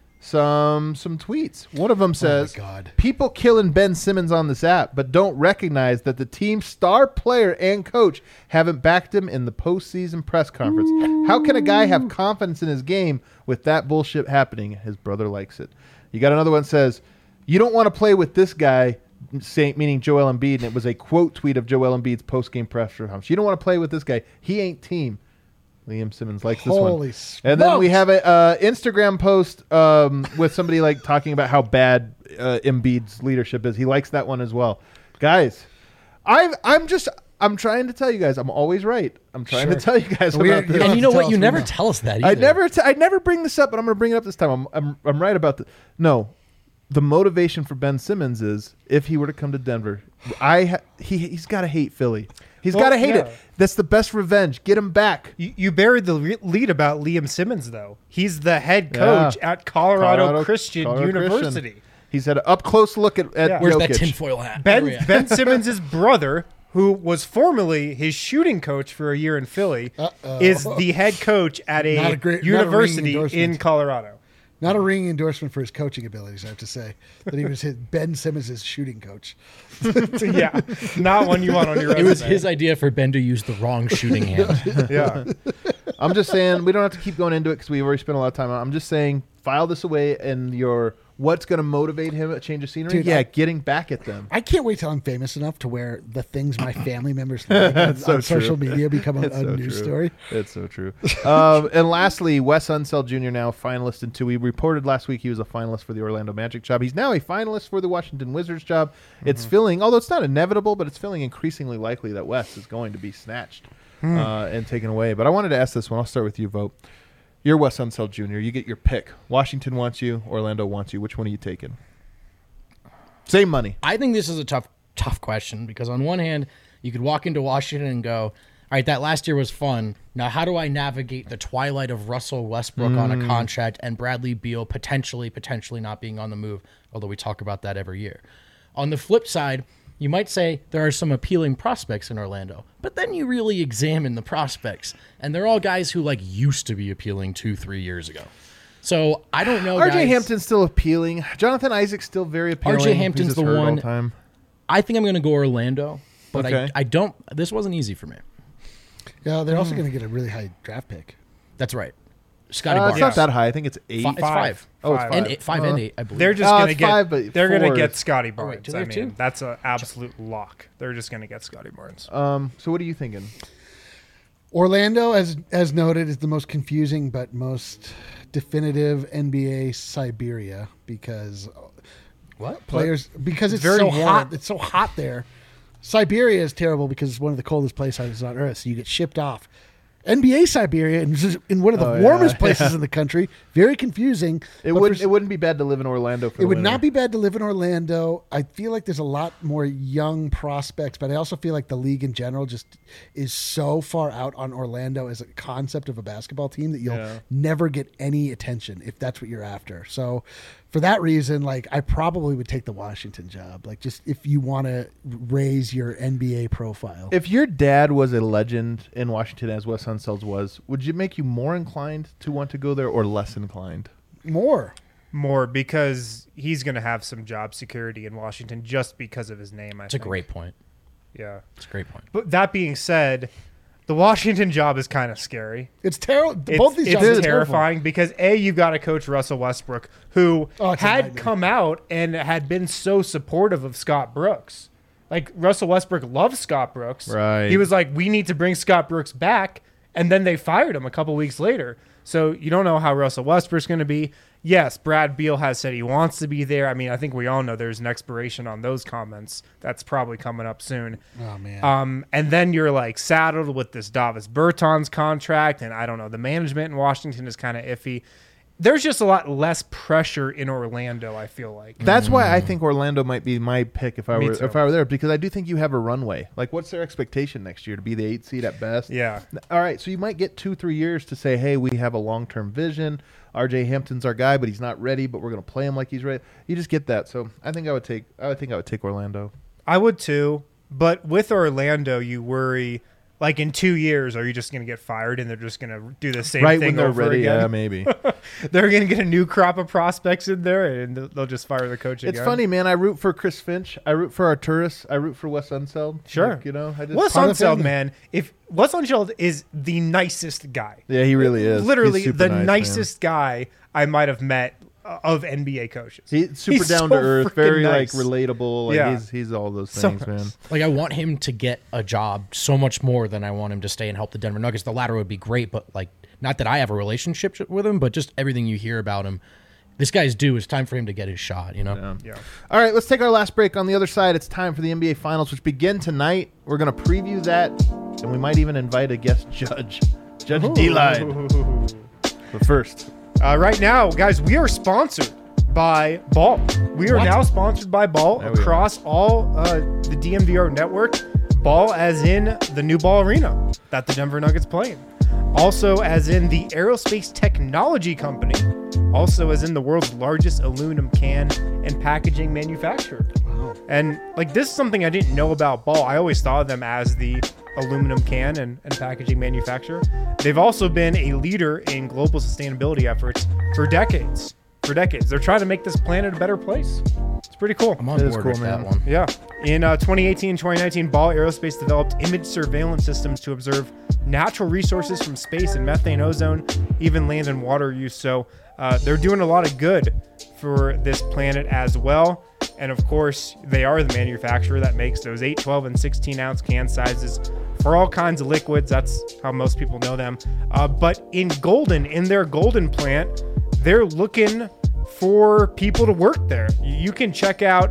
some tweets. One of them says, God. "People killing Ben Simmons on this app, but don't recognize that the team's star player and coach haven't backed him in the postseason press conference. How can a guy have confidence in his game with that bullshit happening? His brother likes it." You got another one that says, "You don't want to play with this guy." Meaning Joel Embiid, and it was a quote tweet of Joel Embiid's post-game press conference. You don't want to play with this guy. He ain't team. Liam Simmons likes this one. Holy And then we smokes. have a Instagram post with somebody like talking about how bad Embiid's leadership is. He likes that one as well. Guys, I'm trying to tell you guys. I'm always right. I'm trying to tell you guys We- about this. you don't And you know have to what? tell You us never we know. tell us that either. I never bring this up, but I'm going to bring it up this time. I'm right about the no. The motivation for Ben Simmons is if he were to come to Denver, he's got to hate Philly. He's Well, got to hate yeah. it. That's the best revenge. Get him back. You buried the lead about Liam Simmons, though. He's the head coach Yeah. at Colorado Christian Colorado University. Christian. He's had an up close look at Yeah. Where's Jokic. that tinfoil hat? Where we Ben at? Ben Simmons' brother, who was formerly his shooting coach for a year in Philly, is the head coach at Not a a great- not a ringing university in endorsement. Colorado. Not a ringing endorsement for his coaching abilities, I have to say. That he was Ben Simmons' shooting coach. Yeah, not one you want on your resume. It was his idea for Ben to use the wrong shooting hand. Yeah, I'm just saying we don't have to keep going into it because we've already spent a lot of time on it. I'm just saying file this away in your What's going to motivate him at change of scenery? Dude, Getting back at them. I can't wait till I'm famous enough to where the things my family members like on so social true. media become a so news true. story. It's so true. And lastly, Wes Unseld Jr. now finalist in 2. We reported last week he was a finalist for the Orlando Magic job. He's now a finalist for the Washington Wizards job. It's feeling, although it's not inevitable, but it's feeling increasingly likely that Wes is going to be snatched and taken away. But I wanted to ask this one. I'll start with you, Vote. You're Wes Unseld Jr. You get your pick. Washington wants you. Orlando wants you. Which one are you taking? Same money. I think this is a tough question because on one hand, you could walk into Washington and go, all right, that last year was fun. Now, how do I navigate the twilight of Russell Westbrook on a contract and Bradley Beal potentially not being on the move, although we talk about that every year. On the flip side, you might say there are some appealing prospects in Orlando, but then you really examine the prospects, and they're all guys who used to be appealing 2-3 years ago. So I don't know. RJ Hampton's still appealing. Jonathan Isaac's still very appealing. RJ Hampton's He's the just hurt all one. the time. I think I'm going to go Orlando, but Okay. I don't. This wasn't easy for me. Yeah, they're also going to get a really high draft pick. That's right. Scotty It's Barnes. not that high. I think it's 8. It's 5. Oh, it's Five. 5. And 5 and 8, I believe. They're just Oh, gonna it's get. 5, but they're gonna 4 get is- Scotty wait, Barnes. do they I have mean, 2? that's an absolute lock. They're just gonna get Scotty Barnes. So what are you thinking? Orlando, as noted, is the most confusing but most definitive NBA Siberia because What? players because it's very so warm. hot. It's so hot there. Siberia is terrible because it's one of the coldest places on Earth, so you get shipped off. NBA Siberia is in one of the warmest places in the country. Very confusing. It but wouldn't be bad to live in Orlando for It the would winter. not be bad to live in Orlando. I feel like there's a lot more young prospects, but I also feel like the league in general just is so far out on Orlando as a concept of a basketball team that you'll never get any attention if that's what you're after. So for that reason, I probably would take the Washington job. Just if you want to raise your NBA profile. If your dad was a legend in Washington as Wes Unseld's was, would it make you more inclined to want to go there or less inclined? More. More because he's gonna have some job security in Washington just because of his name. It's a great point. Yeah. It's a great point. But that being said, the Washington job is kind of scary. It's terrible. It's, Both these it's jobs are terrifying because you've got to coach Russell Westbrook, who Oh, it's a had nightmare. come out and had been so supportive of Scott Brooks. Russell Westbrook loves Scott Brooks. Right. He was like, we need to bring Scott Brooks back. And then they fired him a couple weeks later. So you don't know how Russell Westbrook's going to be. Yes, Brad Beal has said he wants to be there. I mean, I think we all know there's an expiration on those comments. That's probably coming up soon. Oh, man. And then you're saddled with this Davis Bertans contract, and I don't know. The management in Washington is kind of iffy. There's just a lot less pressure in Orlando, I feel like. That's why I think Orlando might be my pick if I Me were too. there, because I do think you have a runway. What's their expectation next year? To be the 8th seed at best? Yeah. All right, so you might get 2-3 years to say, hey, we have a long-term vision. RJ Hampton's our guy, but he's not ready, but we're going to play him like he's ready. You just get that. So I think I would take Orlando. I would too. But with Orlando, you worry, in 2 years, are you just going to get fired and they're just going to do the same Right thing when they're over ready, again? yeah, maybe. They're going to get a new crop of prospects in there, and they'll just fire the coach again. It's funny, man. I root for Chris Finch. I root for Arturis. I root for Wes Unseld. Sure. I just Wes Part of the Unseld, family. man. If Wes Unseld is the nicest guy. Yeah, he really is. Literally He's super the nice, man. nicest guy I might have met of NBA coaches. He's super He's down so to earth, freaking very nice. relatable. Yeah. He's all those So things, man. I want him to get a job so much more than I want him to stay and help the Denver Nuggets. The latter would be great, but not that I have a relationship with him, but just everything you hear about him. This guy's due. It's time for him to get his shot, Yeah. Yeah. All right, let's take our last break. On the other side, it's time for the NBA Finals, which begin tonight. We're going to preview that, and we might even invite a guest judge, Judge D-Line. But first, Right now, guys, we are sponsored by Ball. We are now sponsored by Ball There we across all the DMVR network. Ball as in the new Ball Arena that the Denver Nuggets play in. Also as in the Aerospace Technology Company. Also as in the world's largest aluminum can and packaging manufacturer. And this is something I didn't know about Ball. I always thought of them as the aluminum can and packaging manufacturer. They've also been a leader in global sustainability efforts for decades. They're trying to make this planet a better place. It's pretty cool. I'm on That is board cool, with man. that one. Yeah. In 2018 and 2019, Ball Aerospace developed image surveillance systems to observe natural resources from space and methane, ozone, even land and water use. So they're doing a lot of good for this planet as well. And of course, they are the manufacturer that makes those 8, 12, and 16 ounce can sizes for all kinds of liquids. That's how most people know them. But in Golden, in their Golden plant, they're looking for people to work there. You can check out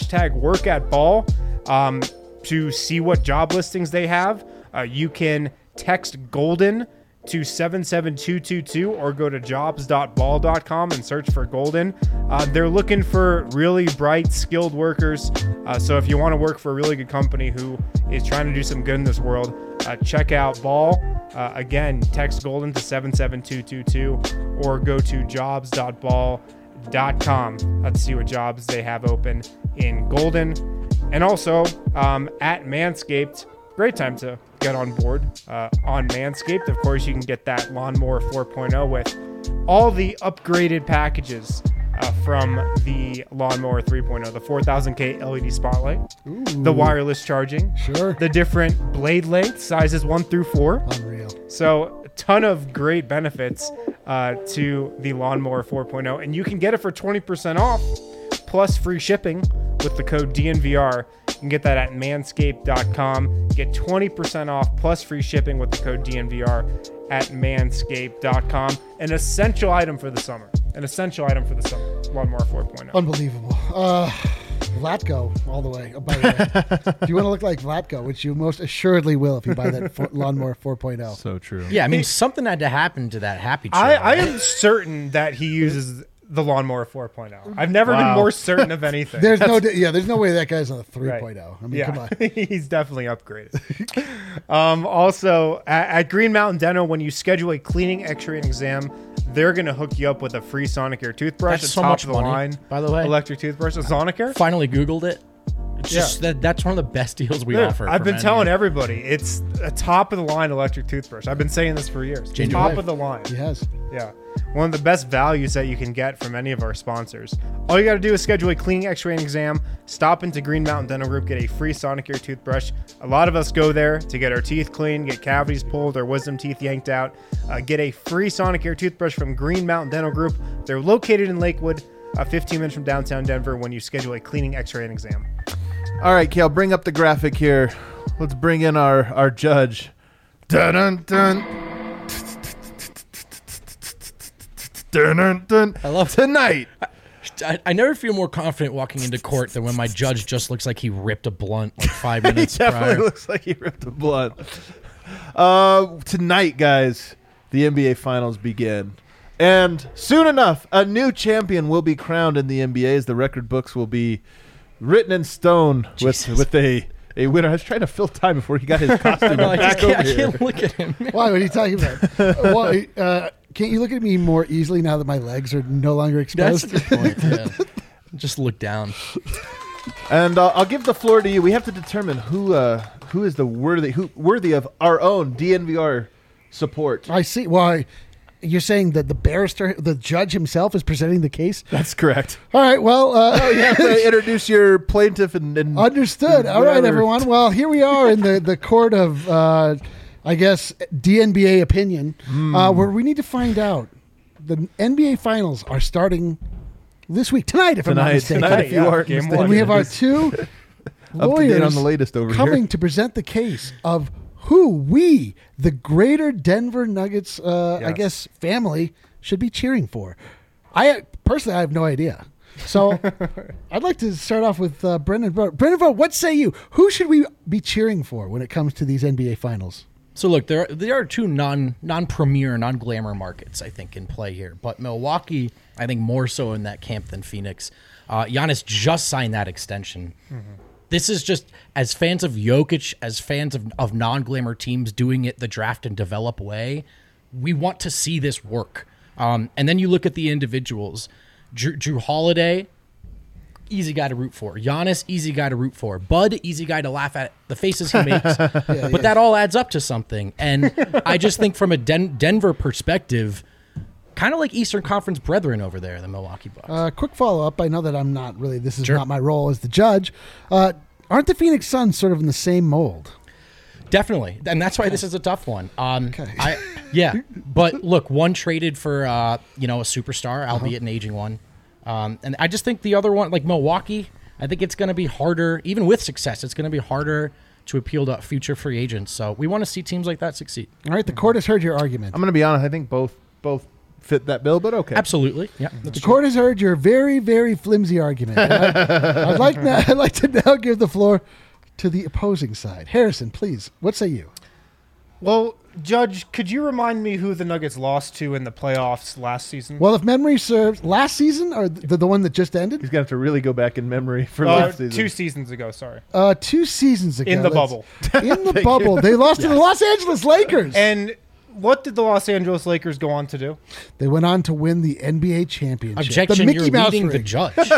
#WorkAtBall to see what job listings they have. You can text Golden to 77222 or go to jobs.ball.com and search for Golden. They're looking for really bright, skilled workers. So if you want to work for a really good company who is trying to do some good in this world, check out Ball. Again, text Golden to 77222 or go to jobs.ball.com to see what jobs they have open in Golden. And also at Manscaped, great time to get on board on Manscaped. Of course, you can get that Lawnmower 4.0 with all the upgraded packages from the Lawnmower 3.0, the 4000K LED spotlight, the wireless charging, the different blade lengths, sizes 1 through 4. Unreal. So a ton of great benefits to the Lawnmower 4.0, and you can get it for 20% off plus free shipping with the code DNVR. You can get that at manscaped.com. Get 20% off plus free shipping with the code DNVR at manscaped.com. An essential item for the summer. Lawnmower 4.0. Unbelievable. Vlatko all the way. Oh, by the way, if you want to look like Vlatko, which you most assuredly will if you buy that Lawnmower 4.0. So true. Yeah, I mean, something had to happen to that happy trail. I am certain that he uses the Lawnmower 4.0. I've never been more certain of anything. There's no way that guy's on a 3.0. Right. I mean, come on. He's definitely upgraded. Also, at Green Mountain Dental, when you schedule a cleaning, x-ray, and exam, they're going to hook you up with a free Sonicare toothbrush. That's a so top much of the money, line by the way. Electric toothbrush. A Sonicare? Finally Googled it. It's just that's one of the best deals we offer. I've for been men telling here. everybody, it's a top of the line electric toothbrush. I've been saying this for years. Change your Top life. of the line. He has. Yeah. One of the best values that you can get from any of our sponsors. All you got to do is schedule a cleaning, x-ray, and exam. Stop into Green Mountain Dental Group. Get a free Sonicare toothbrush. A lot of us go there to get our teeth cleaned, get cavities pulled, or wisdom teeth yanked out. Get a free Sonicare toothbrush from Green Mountain Dental Group. They're located in Lakewood, 15 minutes from downtown Denver when you schedule a cleaning, x-ray, and exam. All right, Kale, bring up the graphic here. Let's bring in our judge. Dun dun dun. Dun dun dun. I love tonight. I never feel more confident walking into court than when my judge just looks like he ripped a blunt like 5 minutes He definitely prior. looks like he ripped a blunt. Tonight, guys, the NBA Finals begin. And soon enough, a new champion will be crowned in the NBA as the record books will be written in stone with a winner. I was trying to fill time before he got his costume I back over here. can't look at him. Why? What are you talking about? Can't you look at me more easily now that my legs are no longer That's exposed? a good point. Yeah. Just look down. And I'll give the floor to you. We have to determine who is the worthy of our own DNVR support. I see. Why? You're saying that the barrister, the judge himself, is presenting the case? That's correct. All right. Well, You have to introduce your plaintiff and understood. All right, whatever. everyone. Well, here we are in the court of, I guess, DNBA opinion, where we need to find out. The NBA Finals are starting this week, tonight, if I'm not mistaken. Tonight, if you Yeah, aren't game mistaken. And we have our two Up to date lawyers on the latest over coming here. to present the case of who we, the greater Denver Nuggets, I guess, family, should be cheering for. I have no idea. So I'd like to start off with Brendan Vogt. Brendan Vogt, what say you? Who should we be cheering for when it comes to these NBA Finals? So look, there are two non-premier, non-glamour markets, I think, in play here. But Milwaukee, I think, more so in that camp than Phoenix. Giannis just signed that extension. Mm-hmm. This is just, as fans of Jokic, as fans of non-glamour teams doing it the draft and develop way, we want to see this work. And then you look at the individuals. Drew Holiday, easy guy to root for. Giannis, easy guy to root for. Bud, easy guy to laugh at the faces he makes. But that all adds up to something. And I just think from a Denver perspective, kind of like Eastern Conference brethren over there, the Milwaukee Bucks. Quick follow-up. I know that I'm not really, this is not my role as the judge. Aren't the Phoenix Suns sort of in the same mold? Definitely, and that's why this is a tough one. Okay. But look, one traded for a superstar, albeit an aging one, and I just think the other one, like Milwaukee, I think it's going to be harder, even with success. It's going to be harder to appeal to future free agents. So we want to see teams like that succeed. All right, the court has heard your argument. I'm going to be honest. I think both fit that bill, but okay. Absolutely, yeah. The court has heard your very, very flimsy argument. I'd like to now give the floor to the opposing side. Harrison, please, what say you? Well, Judge, could you remind me who the Nuggets lost to in the playoffs last season? Well, if memory serves, last season or the one that just ended? He's going to have to really go back in memory for last season. 2 seasons ago, sorry. 2 seasons ago. In the bubble. In the bubble. They lost to the Los Angeles Lakers. And what did the Los Angeles Lakers go on to do? They went on to win the NBA championship. Objection, the you're Mickey Mouse leading the ring.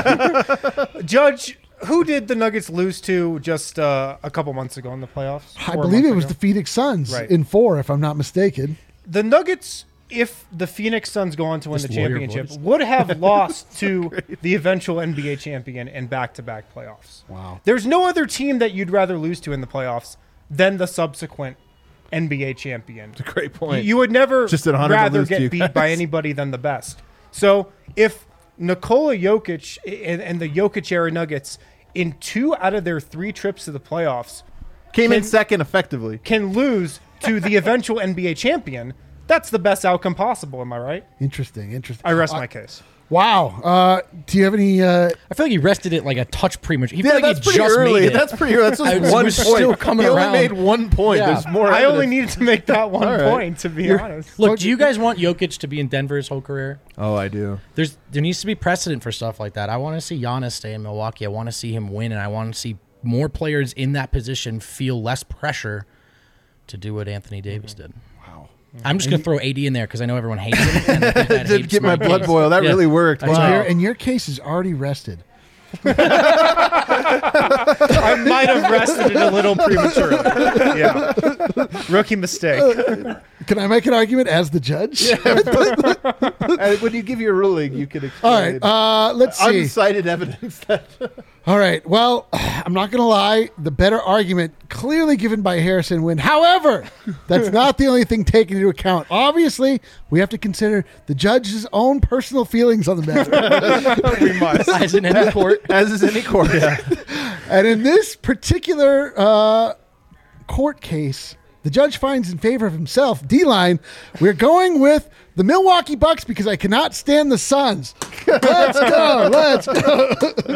judge. Judge, who did the Nuggets lose to just a couple months ago in the playoffs? I believe it was the Phoenix Suns in 4, if I'm not mistaken. The Nuggets, if the Phoenix Suns go on to win the championship, would have lost to the eventual NBA champion in back-to-back playoffs. Wow. There's no other team that you'd rather lose to in the playoffs than the subsequent NBA champion. That's a great point. You would never Just an honor to rather lose to you get beat guys. by anybody than the best. So if Nikola Jokic and the Jokic-era Nuggets in 2 out of their 3 trips to the playoffs Came in second effectively. can lose to the eventual NBA champion, that's the best outcome possible. Am I right? Interesting. I rest my case. Wow. Do you have any... I feel like he rested it like a touch premature. He Yeah, felt like that's he pretty just early. made it. That's pretty early. That's just I was- one was point. still coming he only around. made 1 point. Yeah. There's more. I only evidence. needed to make that one All right. point, to be honest. Look, do you guys want Jokic to be in Denver his whole career? Oh, I do. There needs to be precedent for stuff like that. I want to see Giannis stay in Milwaukee. I want to see him win, and I want to see more players in that position feel less pressure to do what Anthony Davis did. Wow. I'm just going to throw AD in there because I know everyone hates him. And I think that Did hates get my blood case. boil. That Yeah. really worked. That's Wow. right. And your case is already rested. I might have rested it a little prematurely. Yeah. Rookie mistake. Can I make an argument as the judge? When you give your ruling, you can explain. All right. Let's see. Unsighted evidence. All right. Well, I'm not going to lie. The better argument clearly given by Harrison Wynn. However, that's not the only thing taken into account. Obviously, we have to consider the judge's own personal feelings on the matter. We must. As in any court. As is any court. And in this particular court case, the judge finds in favor of himself. D-line, we're going with the Milwaukee Bucks because I cannot stand the Suns. Let's go. Let's go.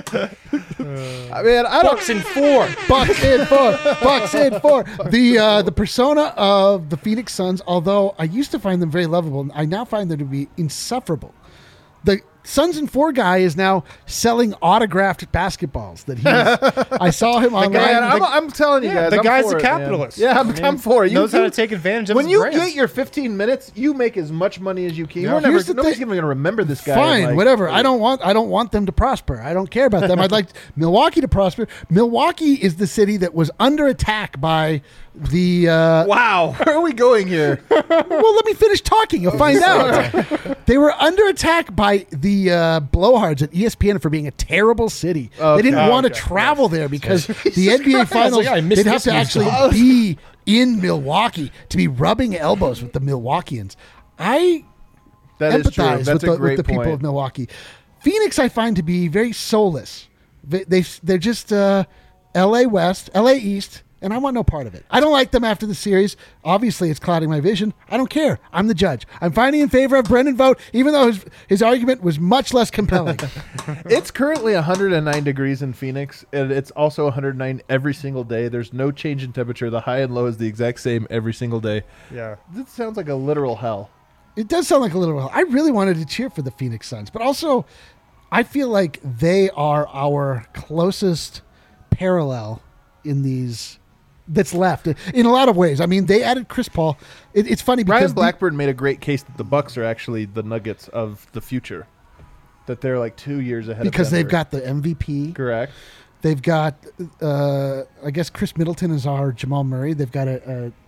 I mean, I don't. Bucks in 4. Bucks in 4. Bucks in 4. The persona of the Phoenix Suns, although I used to find them very lovable, I now find them to be insufferable. The Suns in 4 guy is now selling autographed basketballs that I saw him online. I'm telling you guys. The I'm guy's for a it, man. capitalist. Yeah, I'm for it. Knows how to take advantage of When his you brand. get your 15 minutes, you make as much money as you can. Yeah. We're never, Here's the nobody's thing. even going to remember this guy. Fine, like- whatever. I don't want them to prosper. I don't care about them. I'd like Milwaukee to prosper. Milwaukee is the city that was under attack by the. Wow, where are we going here? Well, let me finish talking. You'll find out. They were under attack by the blowhards at ESPN for being a terrible city. They didn't want to travel there because the NBA Finals, I missed they'd have this to news actually story. be in Milwaukee to be rubbing elbows with the Milwaukeeans. I That is true. empathize That's with a great the people point. of Milwaukee. Phoenix, I find to be very soulless. They're just LA West, LA East, and I want no part of it. I don't like them after the series. Obviously, it's clouding my vision. I don't care. I'm the judge. I'm finding in favor of Brendan Vogt, even though his argument was much less compelling. It's currently 109 degrees in Phoenix, and it's also 109 every single day. There's no change in temperature. The high and low is the exact same every single day. Yeah. This sounds like a literal hell. It does sound like a little. I really wanted to cheer for the Phoenix Suns, but also I feel like they are our closest parallel in these that's left in a lot of ways. I mean, they added Chris Paul. It's funny because Brian Blackburn made a great case that the Bucks are actually the Nuggets of the future. That they're like 2 years ahead because of they've Denver. got the MVP. Correct. They've got, I guess, Chris Middleton is our Jamal Murray. They've got a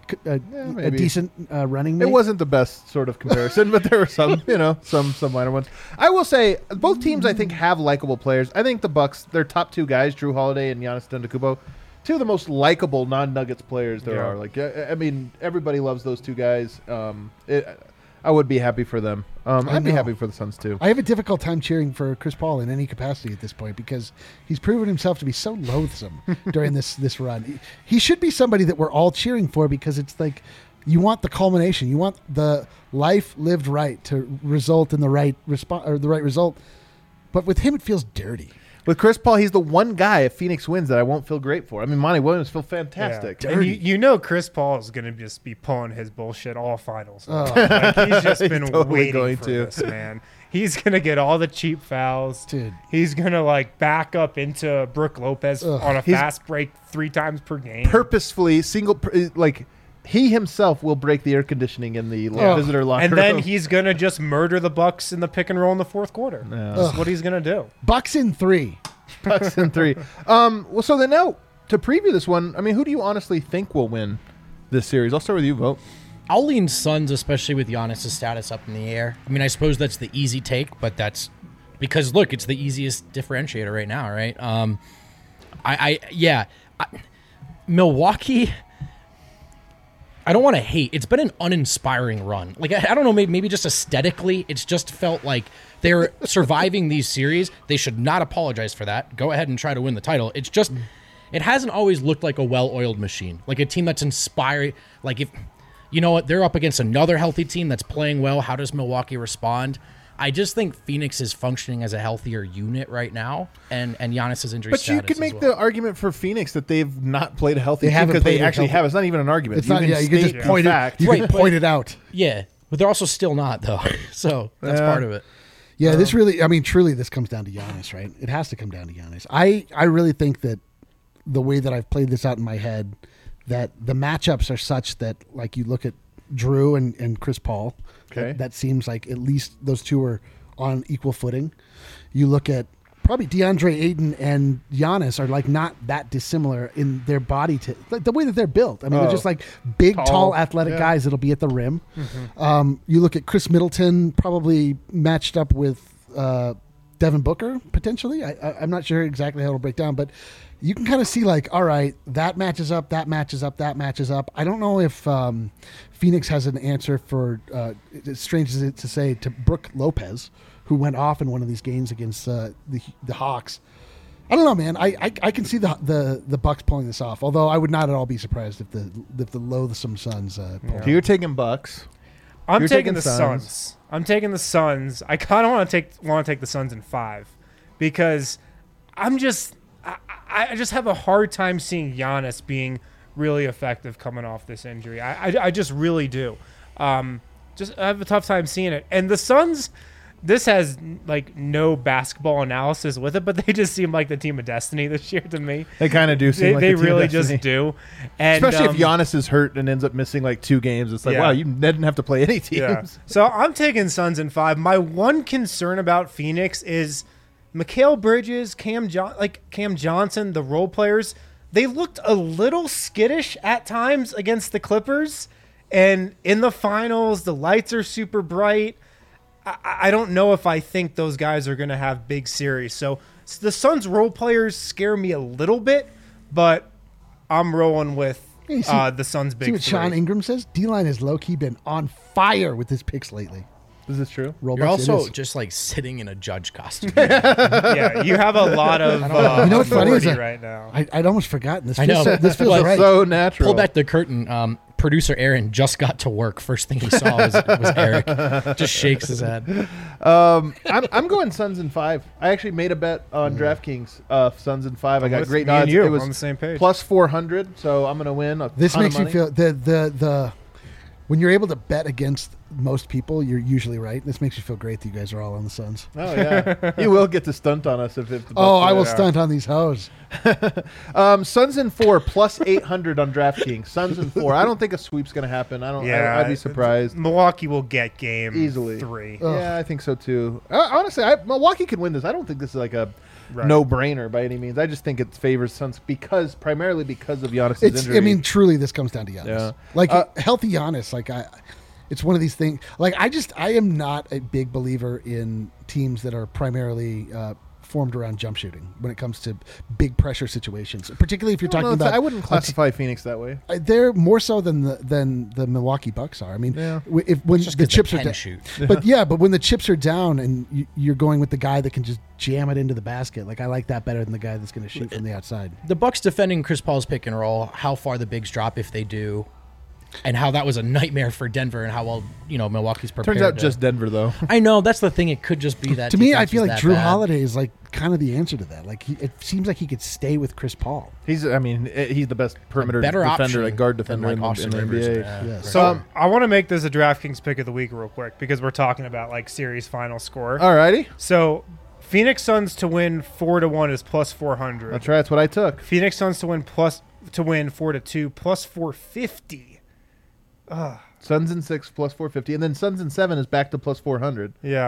a maybe. decent running mate. It wasn't the best sort of comparison, but there were some, some minor ones. I will say both teams I think have likable players. I think the Bucks, their top two guys, Drew Holiday and Giannis Antetokounmpo, two of the most likable non-Nuggets players there are. Like, I mean, everybody loves those two guys. I would be happy for them. I'd be happy for the Suns too. I have a difficult time cheering for Chris Paul in any capacity at this point because he's proven himself to be so loathsome during this run. He should be somebody that we're all cheering for because it's like you want the culmination, you want the life lived right to result in the right response or the right result. But with him, it feels dirty. With Chris Paul, he's the one guy if Phoenix wins that I won't feel great for. I mean, Monty Williams feel fantastic. Yeah. And Chris Paul is going to just be pulling his bullshit all finals. Like, he's just been totally waiting for this, man. He's going to get all the cheap fouls. Dude. He's going to back up into Brook Lopez on a fast break 3 times per game. Purposefully, he himself will break the air conditioning in the visitor locker room. And then he's going to just murder the Bucks in the pick and roll in the fourth quarter. Yeah. That's what he's going to do. Bucks in 3. Bucks in 3. Well, so then now, to preview this one, I mean, who do you honestly think will win this series? I'll start with you, Vogt. I'll lean Suns, especially with Giannis' status up in the air. I mean, I suppose that's the easy take, but that's because, look, it's the easiest differentiator right now, right? Milwaukee... I don't want to hate. It's been an uninspiring run. Like, I don't know, maybe just aesthetically, it's just felt like they're surviving these series. They should not apologize for that. Go ahead and try to win the title. It's just, it hasn't always looked like a well-oiled machine. Like a team that's inspiring. Like, if, you know what, they're up against another healthy team that's playing well. How does Milwaukee respond? I just think Phoenix is functioning as a healthier unit right now, and Giannis' injury But status you could make as well. the argument for Phoenix that they've not played a healthy They team haven't because they played a actually healthy- have. It's not even an argument. It's not. Yeah, you can state just point fact. it. You can Right, point it out. Yeah, but they're also still not, though. So that's Yeah. part of it. Yeah, this really, I mean, truly, this comes down to Giannis, right? It has to come down to Giannis. I really think that the way that I've played this out in my head, that the matchups are such that, like, you look at Drew and Chris Paul, Okay. that seems like at least those two are on equal footing. You look at probably DeAndre Ayton and Giannis are like not that dissimilar in their body, like the way that they're built. I mean, they're just like big, tall athletic guys that'll be at the rim. You look at Chris Middleton, probably matched up with Devin Booker potentially. I'm not sure exactly how it'll break down, but you can kind of see like, all right, that matches up, that matches up, that matches up. I don't know if Phoenix has an answer for, as strange as it to say, to Brook Lopez, who went off in one of these games against the Hawks. I don't know, man. I can see the Bucks pulling this off. Although I would not at all be surprised if the loathsome Suns pull. So you're taking Bucks. I'm You're taking taking the Suns. Suns. I'm taking the Suns. I kind of want to take the Suns in 5 because I just have a hard time seeing Giannis being really effective coming off this injury. I just really do. I have a tough time seeing it. And the Suns, this has like no basketball analysis with it, but they just seem like the team of destiny this year to me. They kind of do seem like They the team of really destiny. just do. And Especially if Giannis is hurt and ends up missing like 2 games. It's like, Yeah. wow, you didn't have to play any teams. Yeah. So I'm taking Suns in 5. My one concern about Phoenix is Mikal Bridges, Cam Johnson, the role players. They looked a little skittish at times against the Clippers, and in the finals, the lights are super bright. I don't know if I think those guys are going to have big series. So the Suns role players scare me a little bit, but I'm rolling with Hey, see- the Suns big See what Sean 3. Ingram says? D-line has low-key been on fire with his picks lately. Is this true? Robux, You're it also is. just like sitting in a judge costume. Yeah, you have a lot of You know what's funny is authority that right now. I'd almost forgotten. This I feels, know. this feels But- right. So natural. Pull back the curtain. Producer Aaron just got to work. First thing he saw was Eric. Just shakes his head. I'm going Suns in 5. I actually made a bet on DraftKings. Suns in 5. I got with great me and odds. you It was on the same page. plus 400. So I'm going to win. This ton of makes me money. feel the when you're able to bet against most people, you're usually right. This makes you feel great that you guys are all on the Suns. Oh yeah, you will get to stunt on us if the Bucks Oh, I win. will stunt on these hoes. Suns in 4 plus 800 on DraftKings. Suns in 4. I don't think a sweep's going to happen. I'd be surprised. Milwaukee will get game Easily. 3. Yeah, I think so too. Honestly, Milwaukee can win this. I don't think this is like a no-brainer by any means. I just think it favors Suns primarily because of Giannis' injury. I mean, truly, this comes down to Giannis. Yeah. Like healthy Giannis, it's one of these things. Like I am not a big believer in teams that are primarily formed around jump shooting when it comes to big pressure situations, particularly if you're talking about. I wouldn't classify Phoenix that way. They're more so than the Milwaukee Bucks are. I mean, when the chips are down, shoot. but when the chips are down and you're going with the guy that can just jam it into the basket, like I like that better than the guy that's going to shoot from the outside. The Bucks defending Chris Paul's pick and roll, how far the bigs drop if they do, and how that was a nightmare for Denver, and how well Milwaukee's prepared. Turns out just Denver though. I know that's the thing. It could just be that. To me, I defense feel was like that Drew bad. Holiday is like kind of the answer to that. Like it seems like he could stay with Chris Paul. He's the best perimeter better defender, option like guard than, defender like, in the Austin NBA. Rivers. Yeah. Yes. So I want to make this a DraftKings pick of the week real quick because we're talking about like series final score. Alrighty, So Phoenix Suns to win 4-1 is plus 400. that's right. That's what I took. Phoenix Suns to win 4-2 plus 450. Suns in 6 plus 450, and then Suns in 7 is back to plus 400. Yeah.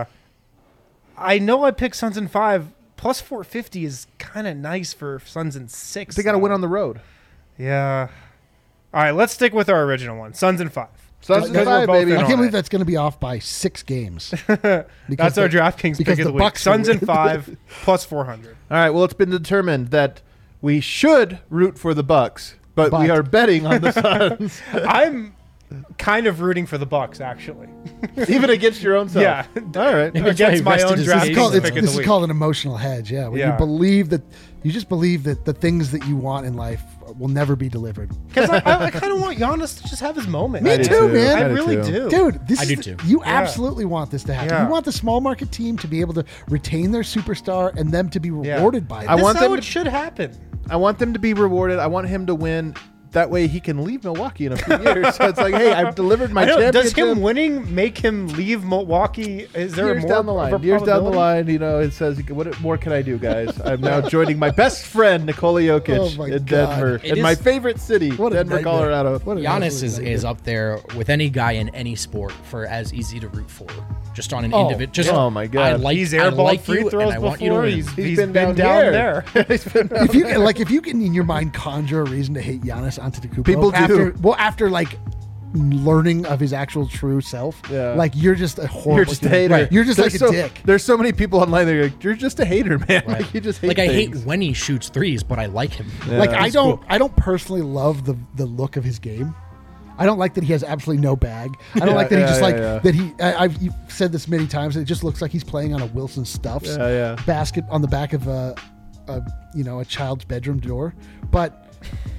I know I picked Suns in 5. Plus 450 is kind of nice for Suns in 6. They got to win on the road. Yeah. All right, let's stick with our original one. Suns in 5. Suns in Because we're 5, both baby. in I on can't believe it. that's going to be off by 6 games. That's our DraftKings because pick of the the week. Bucks are Suns in winning. 5 plus 400. All right. Well, it's been determined that we should root for the Bucks, but we But- are betting on the Suns, I'm kind of rooting for the Bucks, actually. even against your own self. Yeah. All right. Maybe that's why Against he my rested own his draft case. pick of This the is week. called an emotional hedge. Yeah, when Yeah. you believe that you just believe that the things that you want in life will never be delivered. Because I kind of want Giannis to just have his moment. Me I do too, man. I do really too. do. Dude, this I is do the- too. you absolutely want this to happen. Yeah. You want the small market team to be able to retain their superstar and them to be Yeah. rewarded by it. I This want is how them it to- should happen. I want them to be rewarded. I want him to win. That way he can leave Milwaukee in a few years. So it's like, hey, I've delivered my I know, does championship. him winning make him leave Milwaukee? Is there Years more down the of a line, years down the probability? line, it says, what more can I do, guys? I'm now joining my best friend, Nikola Jokic, Oh, my in God. Denver, It in my is- favorite city, What a Denver, nightmare. Colorado. What an Giannis absolute is nightmare. up there with any guy in any sport for as easy to root for. Just on an Oh, individual. Just oh my God. I like, He's I airballed like free you, throws and I want you to before. win. He's been down there. If you if you can in your mind conjure a reason to hate Giannis Antetokounmpo, People do. after like learning of his actual true self, Yeah. like you're just a horrible. You're just a human. hater. Right. You're just There's like a dick. There's so many people online that are like, you're just a hater, man. Right. Like, you just hate Like I hate things. when he shoots threes, but I like him. Like I He's don't cool. I don't personally love the look of his game. I don't like that he has absolutely no bag. I don't like that he just that he. I've you've said this many times. That it just looks like he's playing on a Wilson Stuffs Yeah. basket on the back of a child's bedroom door. But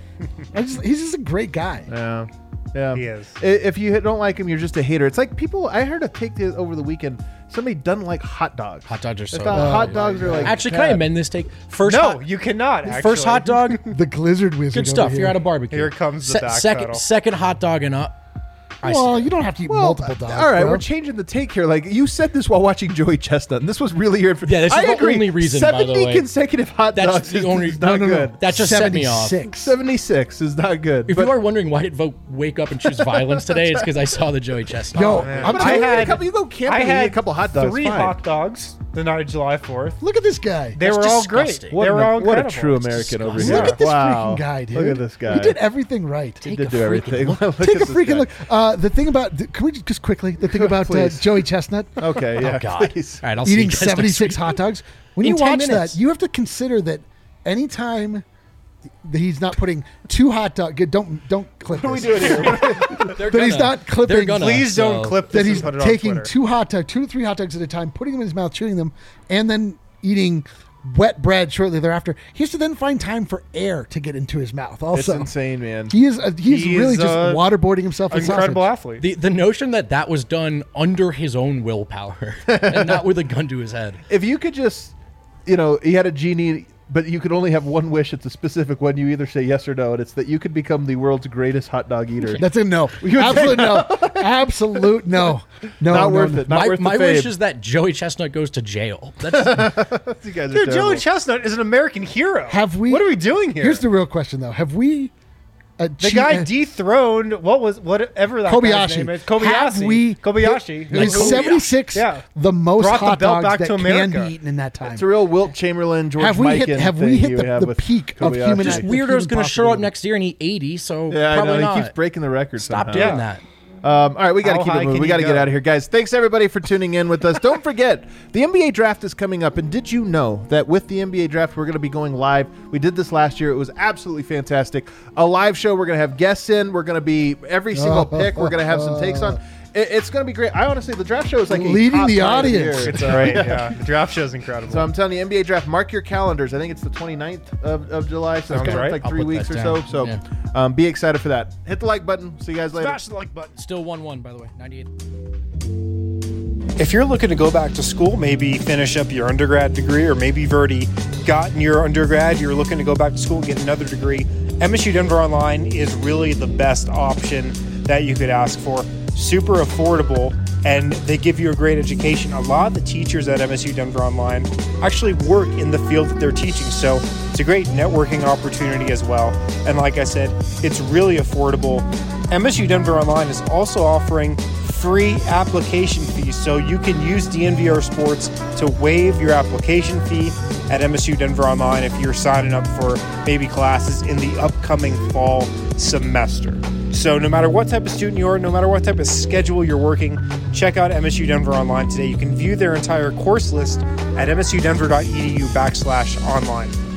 he's just a great guy. Yeah. Yeah. He is. If you don't like him, you're just a hater. It's like people, I heard a take over the weekend. Somebody doesn't like hot dogs. Hot dogs are They so thought good. hot dogs are like. Actually, can I bad. amend this take? First, No, hot, you cannot. Actually. first hot dog, The Glizzard Wizard. good stuff. over You're here. at a barbecue. Here comes the backpedal. Second hot dog and up. I Well, you don't have to eat multiple dogs. All right, bro. we're changing the take here. Like you said this while watching Joey Chestnut, and this was really your. Yeah, this is I the agree. only reason, by the 70 way. consecutive hot That's dogs the is, only- is not No, no, no. good. That just set me off. 76. 76 is not good. If but you are wondering why did Vote wake up and choose violence today, it's because I saw the Joey Chestnut. Yo, man. I'm but telling you, you, eat a couple, you go camping, I and eat had a couple hot dogs. 3 fine. hot dogs the night of July 4th. look at this guy. They That's were all disgusting. great. They were all what a incredible. true It's American over disgusting. here. Look at this Wow. freaking guy, dude. Look at this guy. He did everything right. He Take did a do freaking everything. look. Look Take at a this freaking guy. look. The thing about can we just quickly the thing about Please. Joey Chestnut Okay, yeah, Oh God! please. All right, I'll see you eating guys next 76 week. hot dogs. When In you 10 watch minutes. that, you have to consider that anytime that he's not putting 2 hot dogs. Don't clip What are we this. doing here? They're That he's gonna. not clipping. They're gonna, Please don't so- clip this That and he's put it on taking Twitter. 2 to 3 hot dogs at a time, putting them in his mouth, chewing them, and then eating wet bread shortly thereafter. He has to then find time for air to get into his mouth. It's Also, insane, man. he is He really is just a waterboarding himself. with Incredible sausage. athlete. The notion that was done under his own willpower and not with a gun to his head. If you could just, he had a genie, but you could only have one wish. It's a specific one. You either say yes or no, and it's that you could become the world's greatest hot dog eater. That's a no. Absolute no. Absolute no. No, Not no, worth no. it. Not worth the My fame. wish is that Joey Chestnut goes to jail. That's You guys are Dude, terrible. Joey Chestnut is an American hero. Have we? What are we doing here? Here's the real question, though. Have we The guy dethroned whatever that guy's name is. Kobayashi. In 76, the most brought hot the belt dogs back that to can America. be eaten in that time. It's a real Wilt Chamberlain, George Have we Mikan hit thing the you have with peak of Kobayashi. human? Just the Weirdo's human going to show up possibility? next year and eat 80, so Yeah, I probably know. not. He keeps breaking the record Stop somehow. doing that. All right, we got to How keep high it moving. can We you got to get go? out of here, guys. Thanks everybody for tuning in with us. Don't forget, the NBA draft is coming up, and did you know that with the NBA draft, we're going to be going live? We did this last year. It was absolutely fantastic. A live show. We're going to have guests in. We're going to be every single pick. We're going to have some takes on. It's going to be great. I honestly, the draft show is like Leading a top the time of audience. year. It's great. Yeah, the draft show is incredible. So I'm telling you, NBA draft, mark your calendars. I think it's the 29th of July, so it's Sounds coming up right. like I'll 3 put weeks that or down. so. So be excited for that. Hit the like button. See you guys later. Smash the like button. Still 1-1, by the way. 98. If you're looking to go back to school, maybe finish up your undergrad degree, or maybe you've already gotten your undergrad, you're looking to go back to school and get another degree, MSU Denver Online is really the best option that you could ask for. Super affordable, and they give you a great education. A lot of the teachers at MSU Denver Online actually work in the field that they're teaching, so it's a great networking opportunity as well. And like I said, it's really affordable. MSU Denver Online is also offering free application fees, so you can use DNVR Sports to waive your application fee at MSU Denver Online if you're signing up for maybe classes in the upcoming fall semester. So no matter what type of student you are, no matter what type of schedule you're working, check out MSU Denver Online today. You can view their entire course list at msudenver.edu/online.